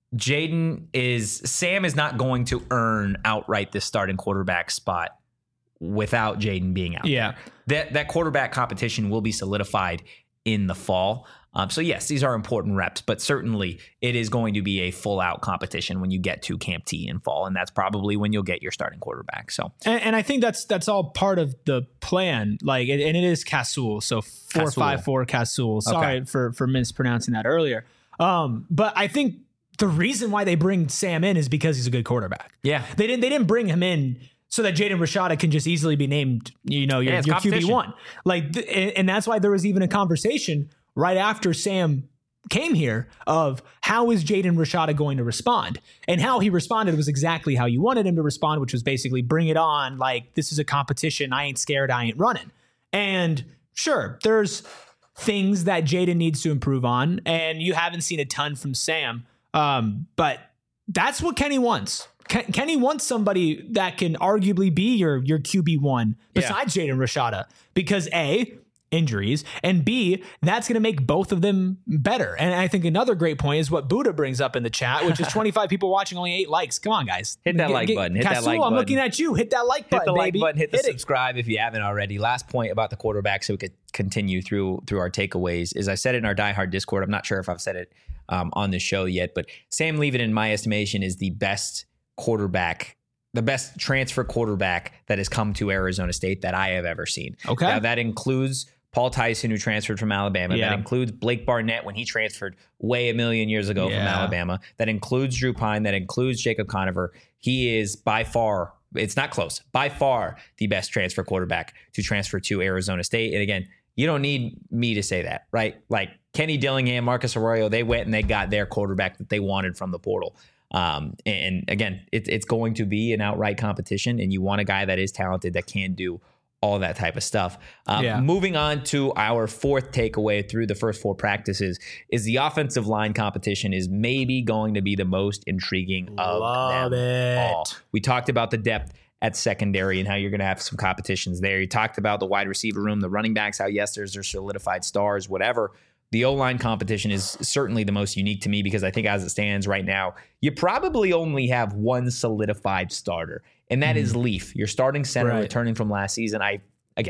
Jaden is Sam is not going to earn outright this starting quarterback spot without Jaden being out.
Yeah.
There. That that quarterback competition will be solidified in the fall. Um, so yes, these are important reps, but certainly it is going to be a full out competition when you get to Camp T in fall, and that's probably when you'll get your starting quarterback. So,
and, and I think that's that's all part of the plan. Like, and it is Casul, so four five four Casul. Sorry
Okay.
for for mispronouncing that earlier. Um, but I think the reason why they bring Sam in is because he's a good quarterback.
Yeah,
they didn't they didn't bring him in so that Jaden Rashada can just easily be named, you know, your,
Yeah, it's
your Q B
competition.
one. Like, th- and, and that's why there was even a conversation right after Sam came here of how is Jaden Rashada going to respond, and how he responded was exactly how you wanted him to respond, which was basically bring it on. Like, this is a competition. I ain't scared. I ain't running. And sure, there's things that Jaden needs to improve on, and you haven't seen a ton from Sam. Um, but that's what Kenny wants. Ken- Kenny wants somebody that can arguably be your, your Q B one besides Jaden Rashada, because A, injuries, and B, that's going to make both of them better. And I think another great point is what Buddha brings up in the chat, which is twenty-five people watching, only eight likes. Come on, guys.
Hit that
Get-
like
get-
button. Hit that
Casul,
like
I'm
button.
looking at you. Hit that like button,
Hit the like
baby.
button, hit the
Hit it.
subscribe if you haven't already. Last point about the quarterback so we could continue through through our takeaways is I said it in our Die Hard Discord. I'm not sure if I've said it um, on the show yet, but Sam Leavitt, in my estimation, is the best quarterback, the best transfer quarterback that has come to Arizona State that I have ever seen.
Okay.
Now, that includes Paul Tyson, who transferred from Alabama.
Yeah.
That includes Blake Barnett when he transferred way a million years ago
Yeah.
from Alabama. That includes Drew Pine. That includes Jacob Conover. He is by far, it's not close, by far the best transfer quarterback to transfer to Arizona State. And again, you don't need me to say that, right? Like Kenny Dillingham, Marcus Arroyo, they went and they got their quarterback that they wanted from the portal. Um, and again, it, it's going to be an outright competition, and you want a guy that is talented, that can do all that type of stuff. Um,
Yeah.
Moving on to our fourth takeaway through the first four practices is the offensive line competition is maybe going to be the most intriguing of
Love
them
it.
all. We talked about the depth at secondary and how you're going to have some competitions there. You talked about the wide receiver room, the running backs, how yes, there's their solidified stars, whatever. The O-line competition is certainly the most unique to me because I think as it stands right now, you probably only have one solidified starter, and that mm. is Leaf, your starting center
right.
returning from last season. I again,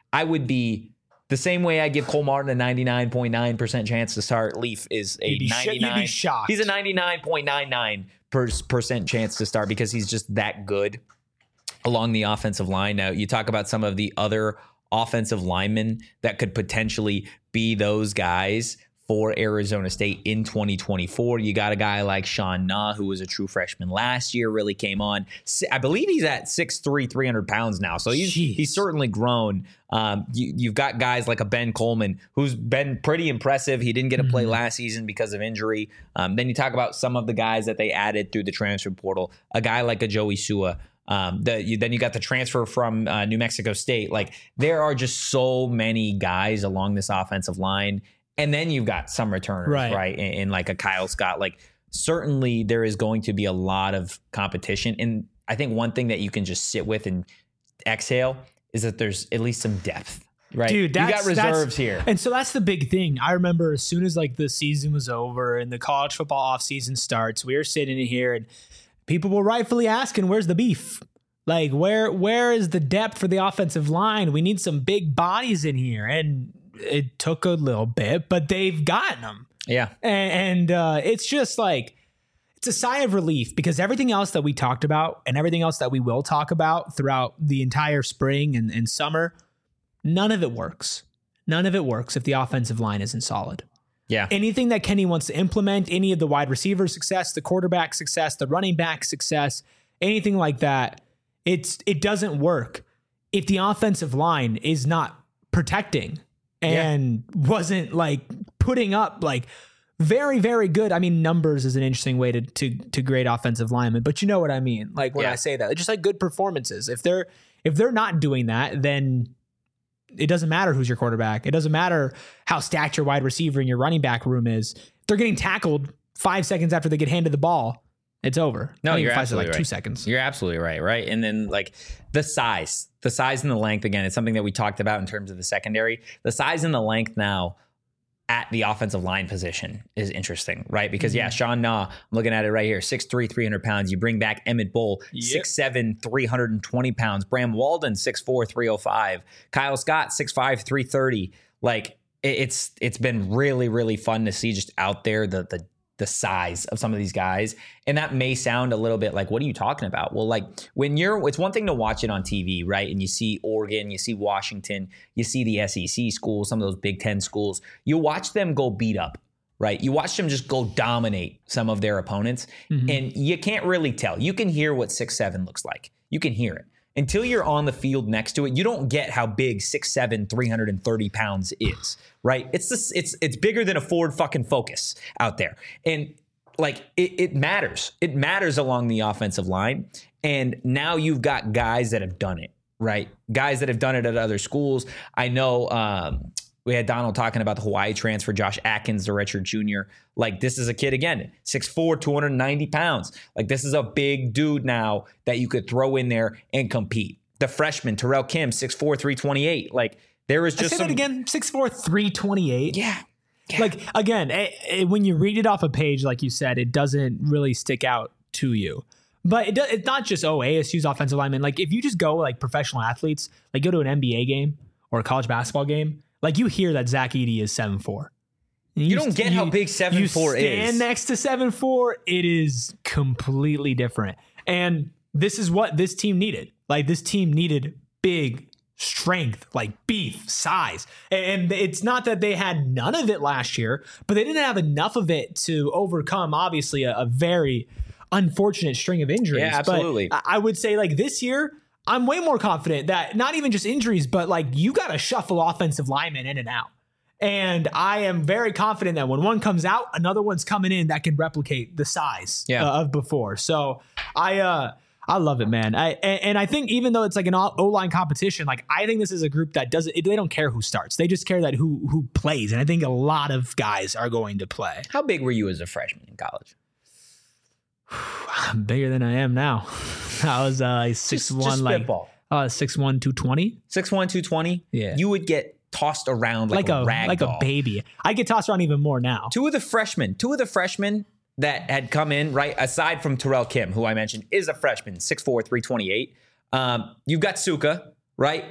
I would be the same way I give Cole Martin a ninety-nine point nine percent chance to start. Leaf is a
You'd be sh- you'd be
ninety-nine.
shocked.
He's a ninety-nine point nine nine percent chance to start because he's just that good along the offensive line. Now, you talk about some of the other offensive linemen that could potentially be those guys for Arizona State in twenty twenty-four. You got a guy like Sean Na, who was a true freshman last year, really came on. I believe he's at six three, three hundred pounds now. So he's, he's certainly grown. Um, you, you've got guys like a Ben Coleman, who's been pretty impressive. He didn't get to play mm-hmm. last season because of injury. Um, then you talk about some of the guys that they added through the transfer portal. A guy like a Joey Sua. Um, the, you, then you got the transfer from uh, New Mexico State. Like, there are just so many guys along this offensive line. And then you've got some returners, right? right? In, in like a Kyle Scott. Like, certainly there is going to be a lot of competition. And I think one thing that you can just sit with and exhale is that there's at least some depth, right?
Dude,
you got reserves here.
And so that's the big thing. I remember as soon as like the season was over and the college football offseason starts, we were sitting in here and people were rightfully asking, where's the beef? Like, where where is the depth for the offensive line? We need some big bodies in here. And it took a little bit, but they've gotten them.
Yeah.
And, and uh, it's just like, it's a sigh of relief because everything else that we talked about and everything else that we will talk about throughout the entire spring and, and summer, none of it works. None of it works if the offensive line isn't solid.
Yeah.
Anything that Kenny wants to implement, any of the wide receiver success, the quarterback success, the running back success, anything like that, it's it doesn't work if the offensive line is not protecting and yeah. wasn't like putting up like very, very good. I mean, numbers is an interesting way to to to grade offensive linemen, but you know what I mean? Like when yeah. I say that, just like good performances. If they're if they're not doing that, then it doesn't matter who's your quarterback. It doesn't matter how stacked your wide receiver and your running back room is. If they're getting tackled five seconds after they get handed the ball, it's over.
No, you're absolutely
like
right.
Two seconds.
You're absolutely right. Right. And then like the size, the size and the length, again, it's something that we talked about in terms of the secondary. The size and the length now at the offensive line position is interesting, right? Because, mm-hmm. yeah, Sean Na, I'm looking at it right here, six three, three hundred pounds. You bring back Emmett Bull, yep. six seven, three hundred twenty pounds. Bram Walden, six four, three oh five. Kyle Scott, six five, three thirty. Like, it's it's been really, really fun to see just out there the the the size of some of these guys. And that may sound a little bit like, what are you talking about? Well, like when you're, it's one thing to watch it on T V, right? And you see Oregon, you see Washington, you see the S E C schools, some of those Big Ten schools, you watch them go beat up, right? You watch them just go dominate some of their opponents. Mm-hmm. And you can't really tell. You can hear what six seven looks like. You can hear it. Until you're on the field next to it, you don't get how big six seven, three hundred thirty pounds is, right? It's this, it's it's bigger than a Ford fucking Focus out there. And like it, it matters. It matters along the offensive line. And now you've got guys that have done it, right? Guys that have done it at other schools. I know um, we had Donald talking about the Hawaii transfer, Josh Atkins, the redshirt junior. Like, this is a kid, again, six four, two hundred ninety pounds. Like, this is a big dude now that you could throw in there and compete. The freshman, Terrell Kim, six four, three twenty-eight. Like, there was just
I say
some...
that again, six four, three twenty-eight.
Yeah. yeah.
Like, again, it, it, when you read it off a page, like you said, it doesn't really stick out to you. But it, it's not just, oh, A S U's offensive linemen. Like, if you just go, like, professional athletes, like, go to an N B A game or a college basketball game, like, you hear that Zach Edey is seven four.
You, you don't get you, how big seven four is. You
stand next to seven four, it is completely different. And this is what this team needed. Like, this team needed big strength, like beef, size. And it's not that they had none of it last year, but they didn't have enough of it to overcome, obviously, a, a very unfortunate string of injuries.
Yeah, absolutely.
But I would say, like, this year, I'm way more confident that not even just injuries, but like you got to shuffle offensive linemen in and out. And I am very confident that when one comes out, another one's coming in that can replicate the size
yeah.
uh, of before. So I, uh, I love it, man. I, and, and I think even though it's like an O-line competition, like I think this is a group that doesn't, they don't care who starts. They just care that who, who plays. And I think a lot of guys are going to play.
How big were you as a freshman in college?
I'm bigger than I am now. I was uh, six
just,
one,
just
like
spitball.
uh, six one, two twenty.
six one, two twenty?
Yeah.
You would get tossed around like,
like a,
a rag
like
doll.
a baby. I get tossed around even more now.
Two of the freshmen, two of the freshmen that had come in, right, aside from Terrell Kim, who I mentioned is a freshman, six four, three twenty-eight. Um, you've got Suka, right?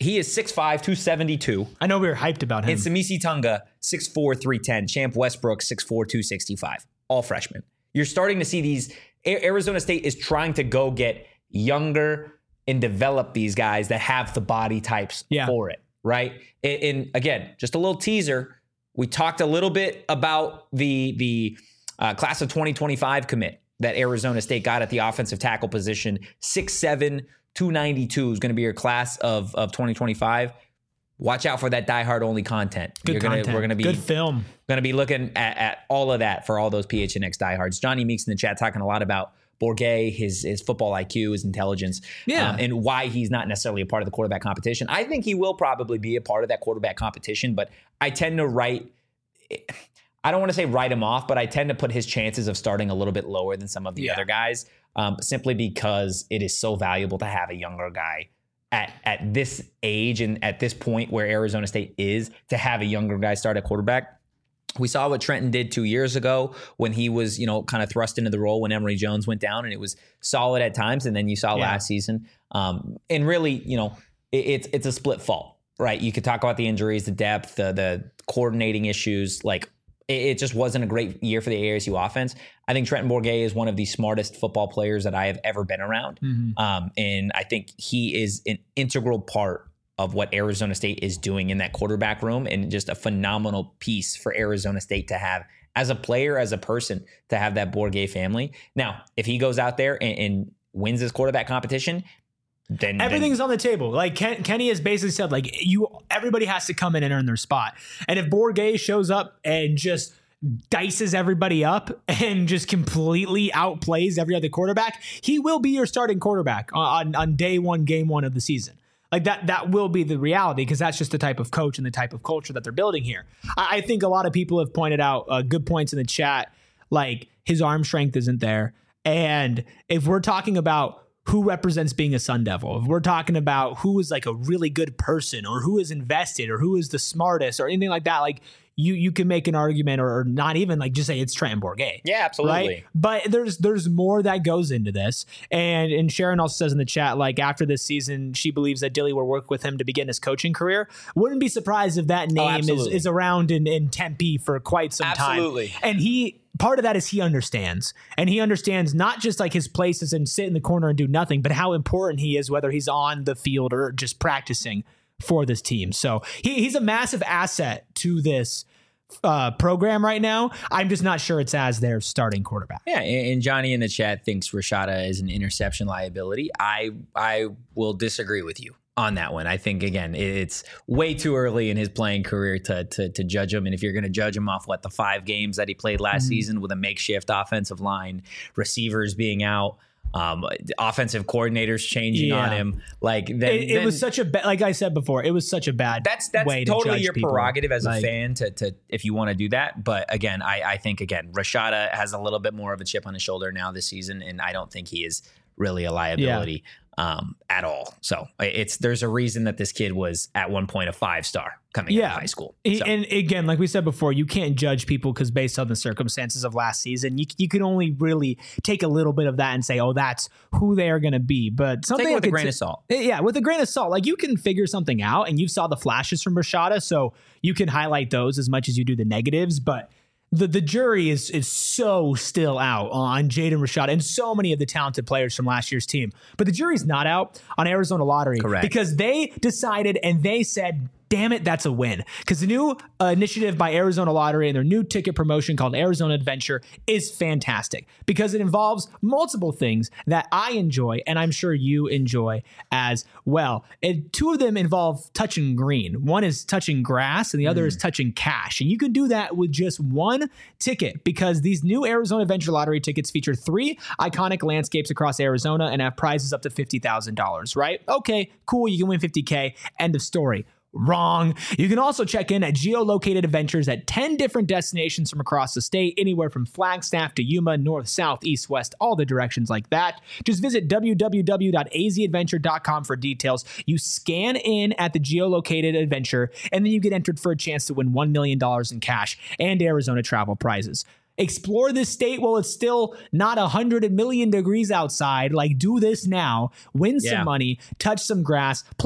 He is six five, two seventy-two.
I know we were hyped about him.
And Samisi Tunga, six four, three ten. Champ Westbrook, six four, two sixty-five. All freshmen. You're starting to see these. Arizona State is trying to go get younger and develop these guys that have the body types
yeah.
for it, right? And, and again, just a little teaser. We talked a little bit about the, the uh, class of twenty twenty-five commit that Arizona State got at the offensive tackle position. six seven, two ninety-two is going to be your class of, of twenty twenty-five. Watch out for that Die Hard only content.
Good
You're gonna,
content.
We're going to be
good film.
Going to be looking at, at all of that for all those P H N X diehards. Johnny Meeks in the chat talking a lot about Bourguet, his his football I Q, his intelligence,
yeah.
um, and why he's not necessarily a part of the quarterback competition. I think he will probably be a part of that quarterback competition, but I tend to write, I don't want to say write him off, but I tend to put his chances of starting a little bit lower than some of the
yeah.
other guys, um, simply because it is so valuable to have a younger guy at at this age and at this point where Arizona State is, to have a younger guy start at quarterback. We saw what Trenton did two years ago when he was, you know, kind of thrust into the role when Emory Jones went down, and it was solid at times. And then you saw yeah. last season. Um, and really, you know, it, it's it's a split fault, right? You could talk about the injuries, the depth, the, the coordinating issues. Like, it, it just wasn't a great year for the A S U offense. I think Trenton Bourguet is one of the smartest football players that I have ever been around. Mm-hmm. Um, and I think he is an integral part of what Arizona State is doing in that quarterback room, and just a phenomenal piece for Arizona State to have as a player, as a person, to have that Bourguet family. Now, if he goes out there and, and wins this quarterback competition, then
everything's
then,
on the table. Like Ken, Kenny has basically said, like you, everybody has to come in and earn their spot. And if Bourguet shows up and just dices everybody up and just completely outplays every other quarterback, he will be your starting quarterback on, on day one, game one of the season. Like that, that will be the reality, because that's just the type of coach and the type of culture that they're building here. I, I think a lot of people have pointed out uh, good points in the chat, like his arm strength isn't there. And if we're talking about who represents being a Sun Devil, if we're talking about who is like a really good person, or who is invested, or who is the smartest, or anything like that, like you you can make an argument, or, or not even like just say it's Trenton Bourguet.
Yeah, absolutely.
Right? But there's there's more that goes into this. And and Sharon also says in the chat, like after this season, she believes that Dilly will work with him to begin his coaching career. Wouldn't be surprised if that name oh, is, is around in, in Tempe for quite some
absolutely.
time. And he part of that is he understands. And he understands not just like his place is and sit in the corner and do nothing, but how important he is, whether he's on the field or just practicing for this team. So he, he's a massive asset to this uh, program right now. I'm just not sure it's as their starting quarterback.
Yeah, and Johnny in the chat thinks Rashada is an interception liability. I I will disagree with you on that one. I think, again, it's way too early in his playing career to to, to judge him. And if you're going to judge him off, what, the five games that he played last mm-hmm. season with a makeshift offensive line, receivers being out, Um, offensive coordinators changing yeah. on him, like then,
it, it
then,
was such a ba- like I said before, it was such a bad.
That's that's
way
totally
to
your
people.
prerogative as
like,
a fan to to if you want to do that. But again, I I think again Rashada has a little bit more of a chip on his shoulder now this season, and I don't think he is really a liability yeah. um, at all. So it's there's a reason that this kid was at one point a five star coming
yeah.
out of high school.
So. And again, like we said before, you can't judge people because based on the circumstances of last season, you you can only really take a little bit of that and say, oh, that's who they are going to be. But something
take it with
like
a grain of salt.
Yeah, with a grain of salt. Like you can figure something out, and you saw the flashes from Rashada, so you can highlight those as much as you do the negatives. But the the jury is is so still out on Jaden Rashada and so many of the talented players from last year's team. But the jury's not out on Arizona Lottery.
Correct.
Because they decided and they said, damn it, that's a win. Because the new uh, initiative by Arizona Lottery and their new ticket promotion called Arizona Adventure is fantastic because it involves multiple things that I enjoy and I'm sure you enjoy as well. And two of them involve touching green. One is touching grass and the other mm. is touching cash. And you can do that with just one ticket because these new Arizona Adventure Lottery tickets feature three iconic landscapes across Arizona and have prizes up to fifty thousand dollars, right? Okay, cool. You can win fifty K. End of story. Wrong. You can also check in at geolocated adventures at ten different destinations from across the state, anywhere from Flagstaff to Yuma, north, south, east, west, all the directions like that. Just visit w w w dot a z adventure dot com for details. You scan in at the geolocated adventure, and then you get entered for a chance to win one million dollars in cash and Arizona travel prizes. Explore this state while it's still not one hundred million degrees outside. Like, do this now. Win some
yeah.
money. Touch some grass. Plus,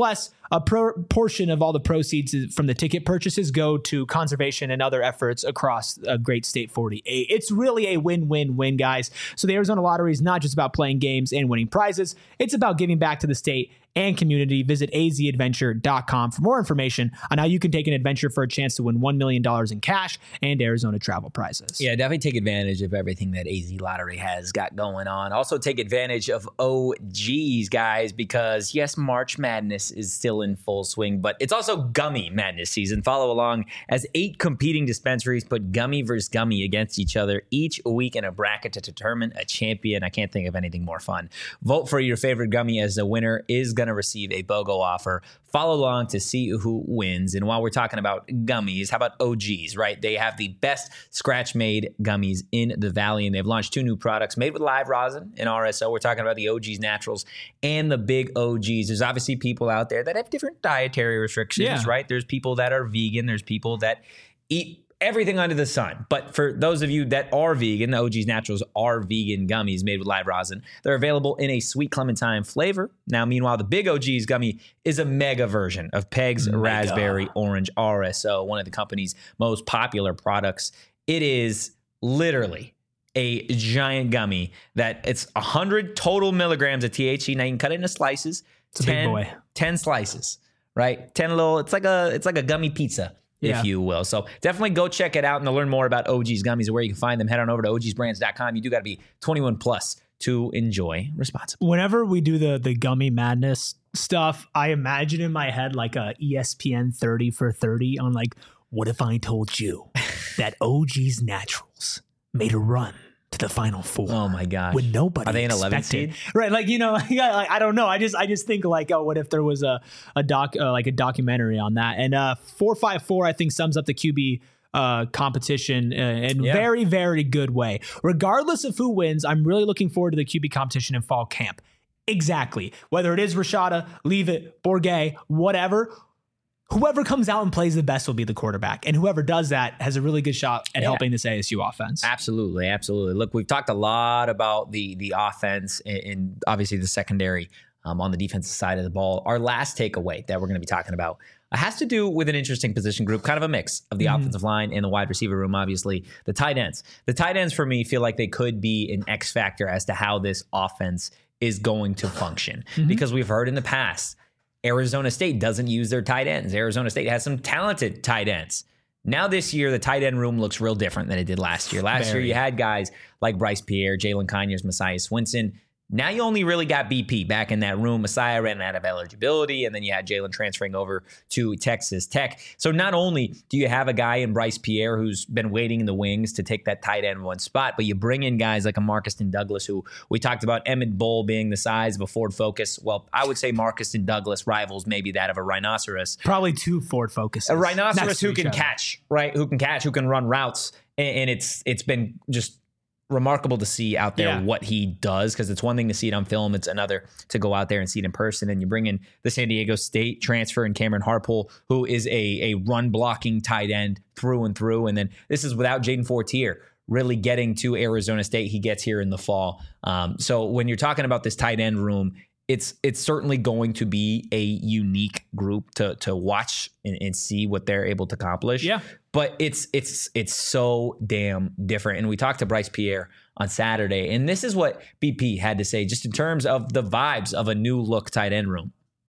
a pro- portion of all the proceeds from the ticket purchases go to conservation and other efforts across uh, Great State forty-eight. It's really a win-win-win, guys. So the Arizona Lottery is not just about playing games and winning prizes. It's about giving back to the state and community. Visit a z adventure dot com for more information on how you can take an adventure for a chance to win one million dollars in cash and Arizona travel prizes.
Yeah, definitely take advantage of everything that A Z Lottery has got going on. Also take advantage of O Gs, guys, because yes, March Madness is still in full swing, but it's also Gummy Madness season. Follow along as eight competing dispensaries put gummy versus gummy against each other each week in a bracket to determine a champion. I can't think of anything more fun. Vote for your favorite gummy as the winner is going to receive a BOGO offer. Follow along to see who wins. And while we're talking about gummies, how about O Gs, right? They have the best scratch-made gummies in the Valley, and they've launched two new products made with live rosin and R S O. We're talking about the O Gs Naturals and the Big O Gs. There's obviously people out there that have different dietary restrictions,
Yeah.
right? There's people that are vegan. There's people that eat everything under the sun. But for those of you that are vegan, the O Gs Naturals are vegan gummies made with live rosin. They're available in a sweet clementine flavor. Now, meanwhile, the Big O Gs gummy is a mega version of Peg's
Mega.
Raspberry Orange R S O, one of the company's most popular products. It is literally a giant gummy that it's one hundred total milligrams of T H C. Now you can cut it into slices.
It's a big
ten,
boy.
ten slices, right? ten little, it's like a, it's like a gummy pizza.
Yeah.
If you will. So definitely go check it out. And to learn more about O G's gummies and where you can find them, head on over to O Gs brands dot com. You do got to be twenty-one plus to enjoy responsibly.
Whenever we do the the gummy madness stuff, I imagine in my head like a E S P N thirty for thirty on like, what if I told you that O G's Naturals made a run to the Final Four?
Oh my gosh.
When nobody
Are they an eleven
expected.
seed?
Right, like, you know, like, I I don't know. I just I just think like, oh, what if there was a a doc uh, like a documentary on that? And uh, four five four I think sums up the Q B uh, competition uh, in
Yeah.
very very good way. Regardless of who wins, I'm really looking forward to the Q B competition in fall camp. Exactly, whether it is Rashada, Leave It, Bourget, whatever. Whoever comes out and plays the best will be the quarterback. And whoever does that has a really good shot at
Yeah.
helping this A S U offense.
Absolutely, absolutely. Look, we've talked a lot about the the offense and, and obviously the secondary um, on the defensive side of the ball. Our last takeaway that we're going to be talking about has to do with an interesting position group, kind of a mix of the
Mhm.
offensive line and the wide receiver room, obviously. The tight ends. The tight ends, for me, feel like they could be an X factor as to how this offense is going to function.
Mhm.
Because we've heard in the past, Arizona State doesn't use their tight ends. Arizona State has some talented tight ends. Now this year, the tight end room looks real different than it did last year. Last
Very.
year, you had guys like Bryce Pierre, Jalen Conyers, Messiah Swinson. Now you only really got B P back in that room. Messiah ran out of eligibility, and then you had Jalen transferring over to Texas Tech. So not only do you have a guy in Bryce Pierre who's been waiting in the wings to take that tight end one spot, but you bring in guys like a Marcuston Douglas, who we talked about Emmett Bull being the size of a Ford Focus. Well, I would say Marcuston Douglas rivals maybe that of a rhinoceros.
Probably two Ford Focuses.
A rhinoceros
next to
who
each
can
other.
catch, right? Who can catch, who can run routes. And, and it's it's been just remarkable to see out there
Yeah.
what he does, because it's one thing to see it on film. It's another to go out there and see it in person. And you bring in the San Diego State transfer and Cameron Harpole, who is a, a run blocking tight end through and through. And then this is without Jaden Fortier really getting to Arizona State. He gets here in the fall. Um, so when you're talking about this tight end room, it's it's certainly going to be a unique group to to watch and, and see what they're able to accomplish.
Yeah.
But it's it's it's so damn different. And we talked to Bryce Pierre on Saturday, and this is what B P had to say just in terms of the vibes of a new look tight end room.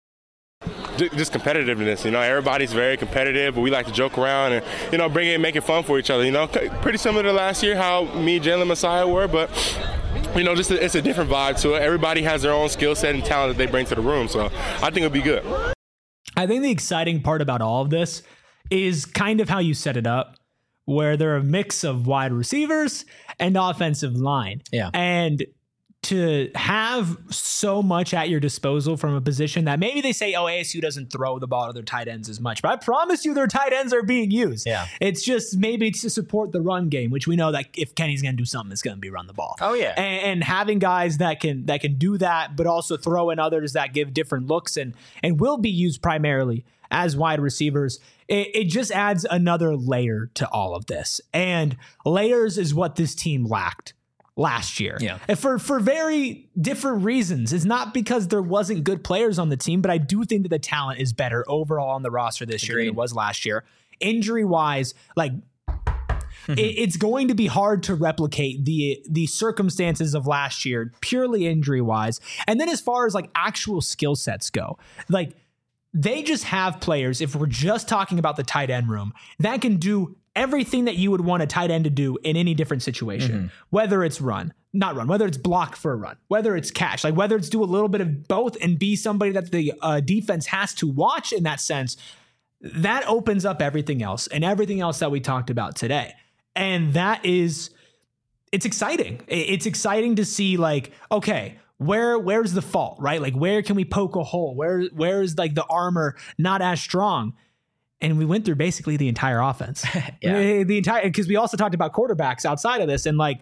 Just competitiveness, you know, everybody's very competitive, but we like to joke around and, you know, bring it and make it fun for each other, you know, pretty similar to last year, how me, Jalen, Messiah were, but, you know, just a, it's a different vibe to it. Everybody has their own skill set and talent that they bring to the room, so I think it'll be good.
I think the exciting part about all of this is kind of how you set it up, where they're a mix of wide receivers and offensive line.
Yeah.
And to have so much at your disposal from a position that maybe they say, oh, A S U doesn't throw the ball to their tight ends as much, but I promise you their tight ends are being used.
Yeah.
It's just maybe to support the run game, which we know that if Kenny's going to do something, it's going to be run the ball.
Oh, yeah.
And, and having guys that can that can do that, but also throw in others that give different looks and and will be used primarily as wide receivers, it, it just adds another layer to all of this. And layers is what this team lacked last year.
Yeah.
And for, for very different reasons. It's not because there wasn't good players on the team, but I do think that the talent is better overall on the roster this year than it was last year. Injury wise, like it, it's going to be hard to replicate the, the circumstances of last year, purely injury wise. And then as far as like actual skill sets go, like they just have players, if we're just talking about the tight end room, that can do everything that you would want a tight end to do in any different situation, mm-hmm. whether it's run, not run, whether it's block for a run, whether it's catch, like whether it's do a little bit of both and be somebody that the uh, defense has to watch in that sense. That opens up everything else and everything else that we talked about today. And that is, it's exciting. It's exciting to see like, okay, where, where's the fault, right? Like where can we poke a hole? Where, where's like the armor not as strong? And we went through basically the entire offense. yeah. The entire, because we also talked about quarterbacks outside of this. And like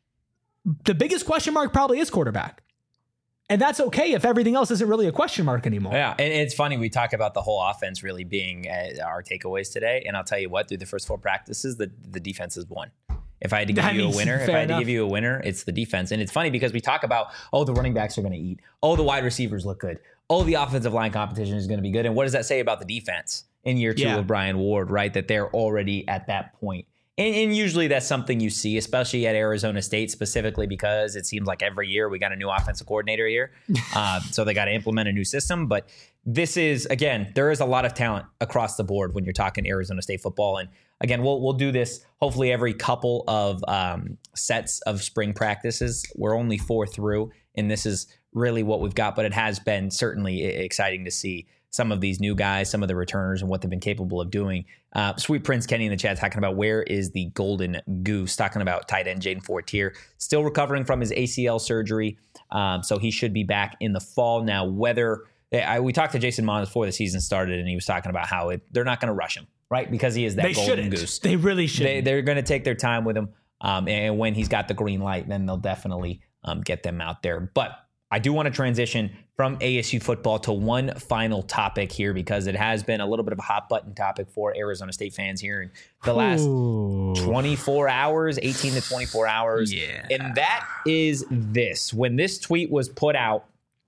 the biggest question mark probably is quarterback. And that's okay if everything else isn't really a question mark anymore.
Yeah, and it's funny. We talk about the whole offense really being uh, our takeaways today. And I'll tell you what, through the first four practices, the, the defense has won. If I had to give
That
you a
means
winner, if
fair
I had
enough.
to give you a winner, it's the defense. And it's funny because we talk about, oh, the running backs are going to eat. Oh, the wide receivers look good. Oh, the offensive line competition is going to be good. And what does that say about the defense in year two
Yeah.
of Brian Ward, right? That they're already at that point. And, and usually that's something you see, especially at Arizona State, specifically because it seems like every year we got a new offensive coordinator here. uh, so they got to implement a new system. But this is, again, there is a lot of talent across the board when you're talking Arizona State football. And again, we'll we'll do this hopefully every couple of um, sets of spring practices. We're only four through, and this is really what we've got. But it has been certainly exciting to see some of these new guys, some of the returners, and what they've been capable of doing. Uh, Sweet Prince Kenny in the chat talking about where is the golden goose, talking about tight end Jaden Fortier, still recovering from his A C L surgery. Um, so he should be back in the fall. Now, whether I, we talked to Jason Mon before the season started, and he was talking about how it, they're not going to rush him, right? Because he is that
They
golden
shouldn't.
goose.
They really should.
They, they're going to take their time with him. Um, and when he's got the green light, then they'll definitely um, get them out there. But I do want to transition from A S U football to one final topic here, because it has been a little bit of a hot button topic for Arizona State fans here in the last
Ooh.
twenty-four hours, eighteen to twenty-four hours.
Yeah.
And that is this. When this tweet was put out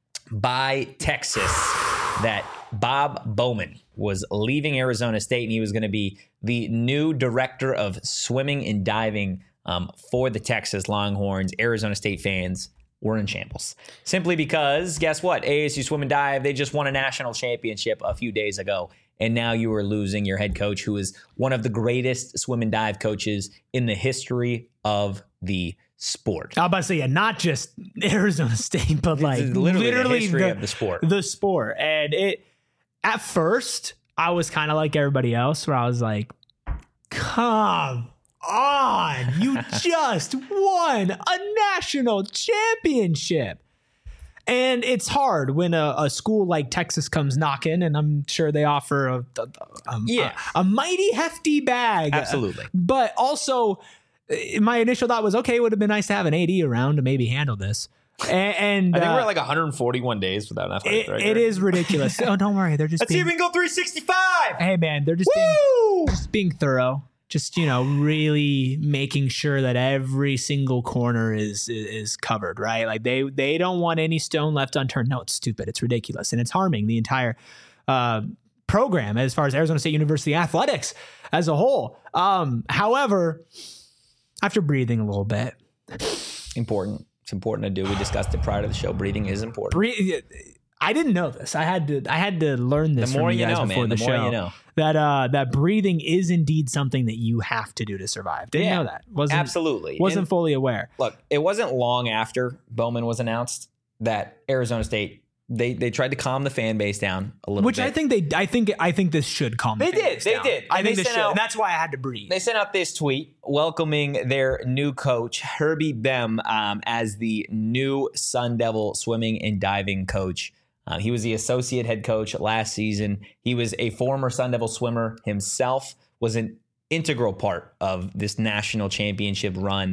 by Texas that Bob Bowman was leaving Arizona State and he was going to be the new director of swimming and diving um, for the Texas Longhorns, Arizona State fans were in shambles. Simply because, guess what? A S U Swim and Dive, they just won a national championship a few days ago. And now you are losing your head coach, who is one of the greatest swim and dive coaches in the history of the sport.
I was about to say, yeah, not just Arizona State, but like
is literally the
literally
history of the sport.
The sport. And it, at first, I was kind of like everybody else, where I was like, come on, you just won a national championship. And it's hard when a, a school like Texas comes knocking, and I'm sure they offer a, a, a,
Yeah.
a, a mighty hefty bag.
Absolutely.
But also, uh, my initial thought was, okay, it would have been nice to have an A D around to maybe handle this. And, and
I think
uh,
we're at like one hundred forty-one days without an athletic
it,
director.
it is ridiculous. Oh, don't worry. They're just
Let's see
being,
if we can go three sixty-five.
hey, man, they're just being,
Woo!
just being thorough. Just, you know, really making sure that every single corner is is covered, right? Like they they don't want any stone left unturned. No, it's stupid. It's ridiculous. And it's harming the entire uh, program as far as Arizona State University athletics as a whole. Um, however, after breathing a little bit,
Important. It's important to do. We discussed it prior to the show. Breathing is important.
breathe. I didn't know this. I had to. I had to learn this
The more
from you
you
guys
know,
before
man,
the,
the more
show.
you know.
That uh, that breathing is indeed something that you have to do to survive. Didn't
Yeah,
know that. Wasn't
Absolutely.
Wasn't
And
fully aware.
look, it wasn't long after Bowman was announced that Arizona State, they they tried to calm the fan base down a little
Which
bit.
I think they. I think. I think this should calm. the
They
fan
did,
base
they
down.
did.
I
And
think
they
this
sent
should.
out-
And that's why I had to breathe.
They sent out this tweet welcoming their new coach, Herbie Bem, um, as the new Sun Devil swimming and diving coach. Uh, he was the associate head coach last season. He was a former Sun Devil swimmer himself, was an integral part of this national championship run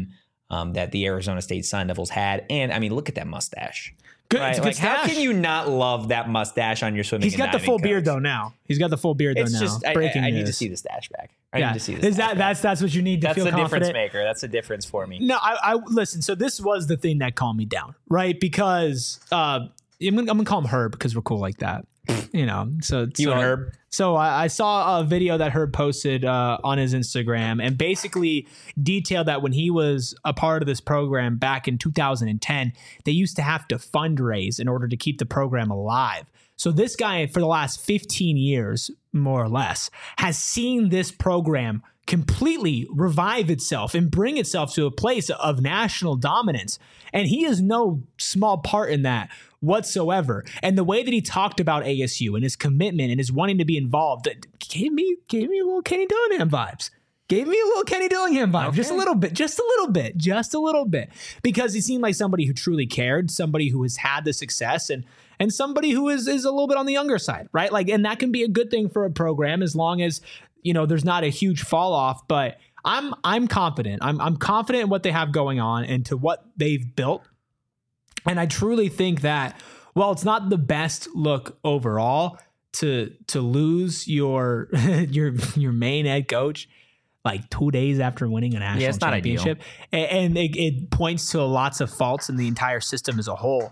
um, that the Arizona State Sun Devils had. And I mean, look at that mustache.
Good,
Right?
it's a
Like,
good
how
stash.
can you not love that mustache on your swimming?
He's
and
got the
diving
full
coach?
beard though now. He's got the full beard
It's
though now.
just I,
Breaking
I, I need
news.
to see the stash back. I
yeah.
need to see the
Is
stash
that
back.
that's that's what you need to
That's
feel
the difference
confident?
maker. That's the difference for me.
No, I, I listen. So this was the thing that calmed me down, right? Because uh, I'm gonna, I'm gonna call him Herb because we're cool like that, you know. So
You
so,
and Herb?
So I, I saw a video that Herb posted uh, on his Instagram and basically detailed that when he was a part of this program back in two thousand ten, they used to have to fundraise in order to keep the program alive. So this guy, for the last fifteen years, more or less, has seen this program completely revive itself and bring itself to a place of national dominance. And he is no small part in that whatsoever. And the way that he talked about A S U and his commitment and his wanting to be involved gave me gave me a little Kenny Dillingham vibes. Gave me a little Kenny Dillingham vibe, okay. just a little bit, just a little bit, just a little bit, because he seemed like somebody who truly cared, somebody who has had the success, and and somebody who is is a little bit on the younger side, right? Like, and that can be a good thing for a program as long as, you know, there's not a huge fall off. But I'm I'm confident. I'm I'm confident in what they have going on and to what they've built, and I truly think that while it's not the best look overall to to lose your your your main head coach like two days after winning a national
Yeah, it's not
championship, and, and it, it points to lots of faults in the entire system as a whole.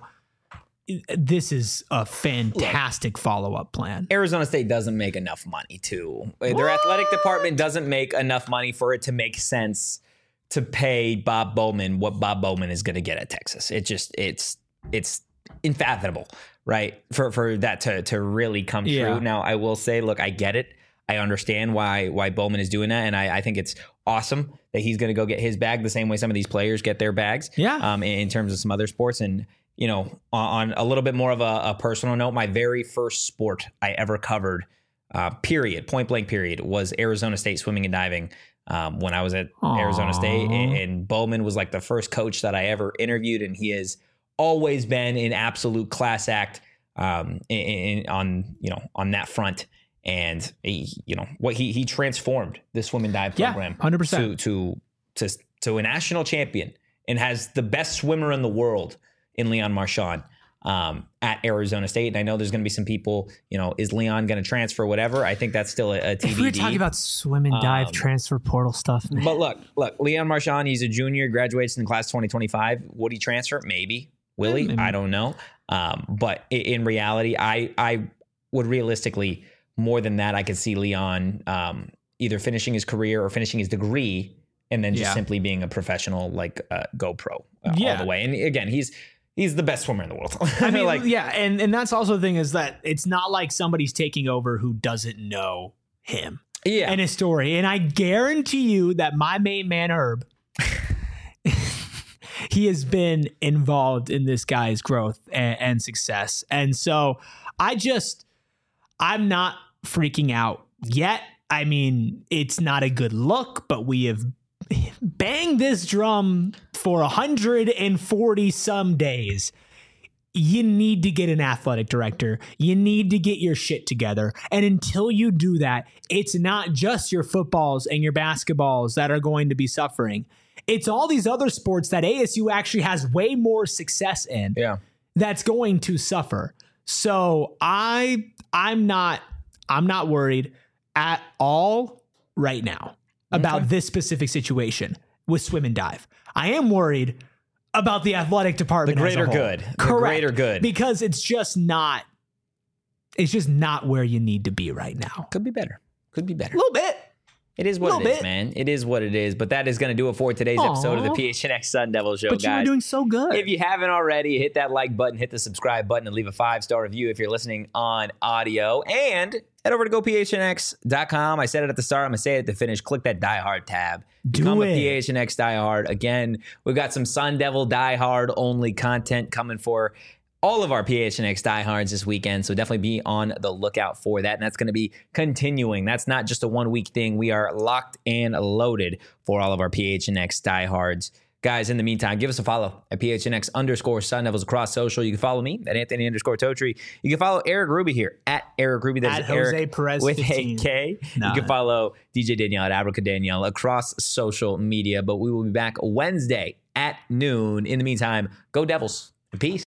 This is a fantastic follow-up plan.
Arizona State doesn't make enough money to. Their athletic department doesn't make enough money for it to make sense to pay Bob Bowman what Bob Bowman is going to get at Texas. It just it's it's unfathomable, right? For for that to to really come true.
Yeah.
Now, I will say, look, I get it. I understand why why Bowman is doing that, and I, I think it's awesome that he's going to go get his bag the same way some of these players get their bags.
Yeah.
Um, in, in terms of some other sports, and you know, on, on a little bit more of a, a personal note, my very first sport I ever covered, uh, period, point blank period, was Arizona State swimming and diving. Um, when I was at
Aww.
Arizona State, and, and Bowman was like the first coach that I ever interviewed, and he has always been an absolute class act um, in, in, on you know on that front. And he, you know what he he transformed the swim and dive
Yeah,
program
one hundred percent.
to to to to a national champion, and has the best swimmer in the world in Leon Marchand um, at Arizona State. And I know there's going to be some people, you know, is Leon going to transfer, whatever? I think that's still a, a T B D.
If we were talking about swim and dive
Um,
transfer portal stuff, man.
But look, look, Leon Marchand, he's a junior, graduates in the class twenty twenty-five. Would he transfer? Maybe. Will he?
Maybe.
I don't know. Um, but in, in reality, I I would realistically, more than that, I could see Leon um, either finishing his career or finishing his degree, and then just
Yeah.
simply being a professional, like uh, GoPro uh, all
Yeah.
the way. And again, he's he's the best swimmer in the world.
I mean,
like,
yeah, and and that's also the thing is that it's not like somebody's taking over who doesn't know him
yeah,
and his story. And I guarantee you that my main man Herb, he has been involved in this guy's growth and, and success. And so I just, I'm not freaking out yet. I mean, it's not a good look, but we have banged this drum for one hundred forty some days. You need to get an athletic director. You need to get your shit together. And until you do that, it's not just your footballs and your basketballs that are going to be suffering. It's all these other sports that A S U actually has way more success in
yeah.
that's going to suffer. So I I'm not I'm not worried at all right now about
Okay.
this specific situation with swim and dive. I am worried about the athletic department.
The
as a
greater
whole.
good. The
Correct.
greater good.
Because it's just not it's just not where you need to be right now.
Could be better. Could be better.
A little bit.
It is what
Little
it is,
bit.
man. It is what it is. But that is going to do it for today's
Aw.
episode of the P H N X Sun Devil Show,
But you
guys.
were doing so good.
If you haven't already, hit that like button, hit the subscribe button, and leave a five-star review if you're listening on audio. And head over to go P H N X dot com. I said it at the start. I'm going to say it at the finish. Click that Die Hard tab.
Do
Become
it.
a P H N X Die Hard. Again, we've got some Sun Devil Die Hard only content coming for all of our P H N X diehards this weekend, so definitely be on the lookout for that. And that's going to be continuing. That's not just a one-week thing. We are locked and loaded for all of our P H N X diehards. Guys, in the meantime, give us a follow at P H N X underscore Sun Devils across social. You can follow me at Anthony underscore Totri. You can follow Eric Ruby here at Eric Ruby. That's
At Jose
Eric
Perez
with
fifteen.
a K.
Nah.
You can follow D J Danielle at Abrica Danielle across social media. But we will be back Wednesday at noon. In the meantime, go Devils and peace.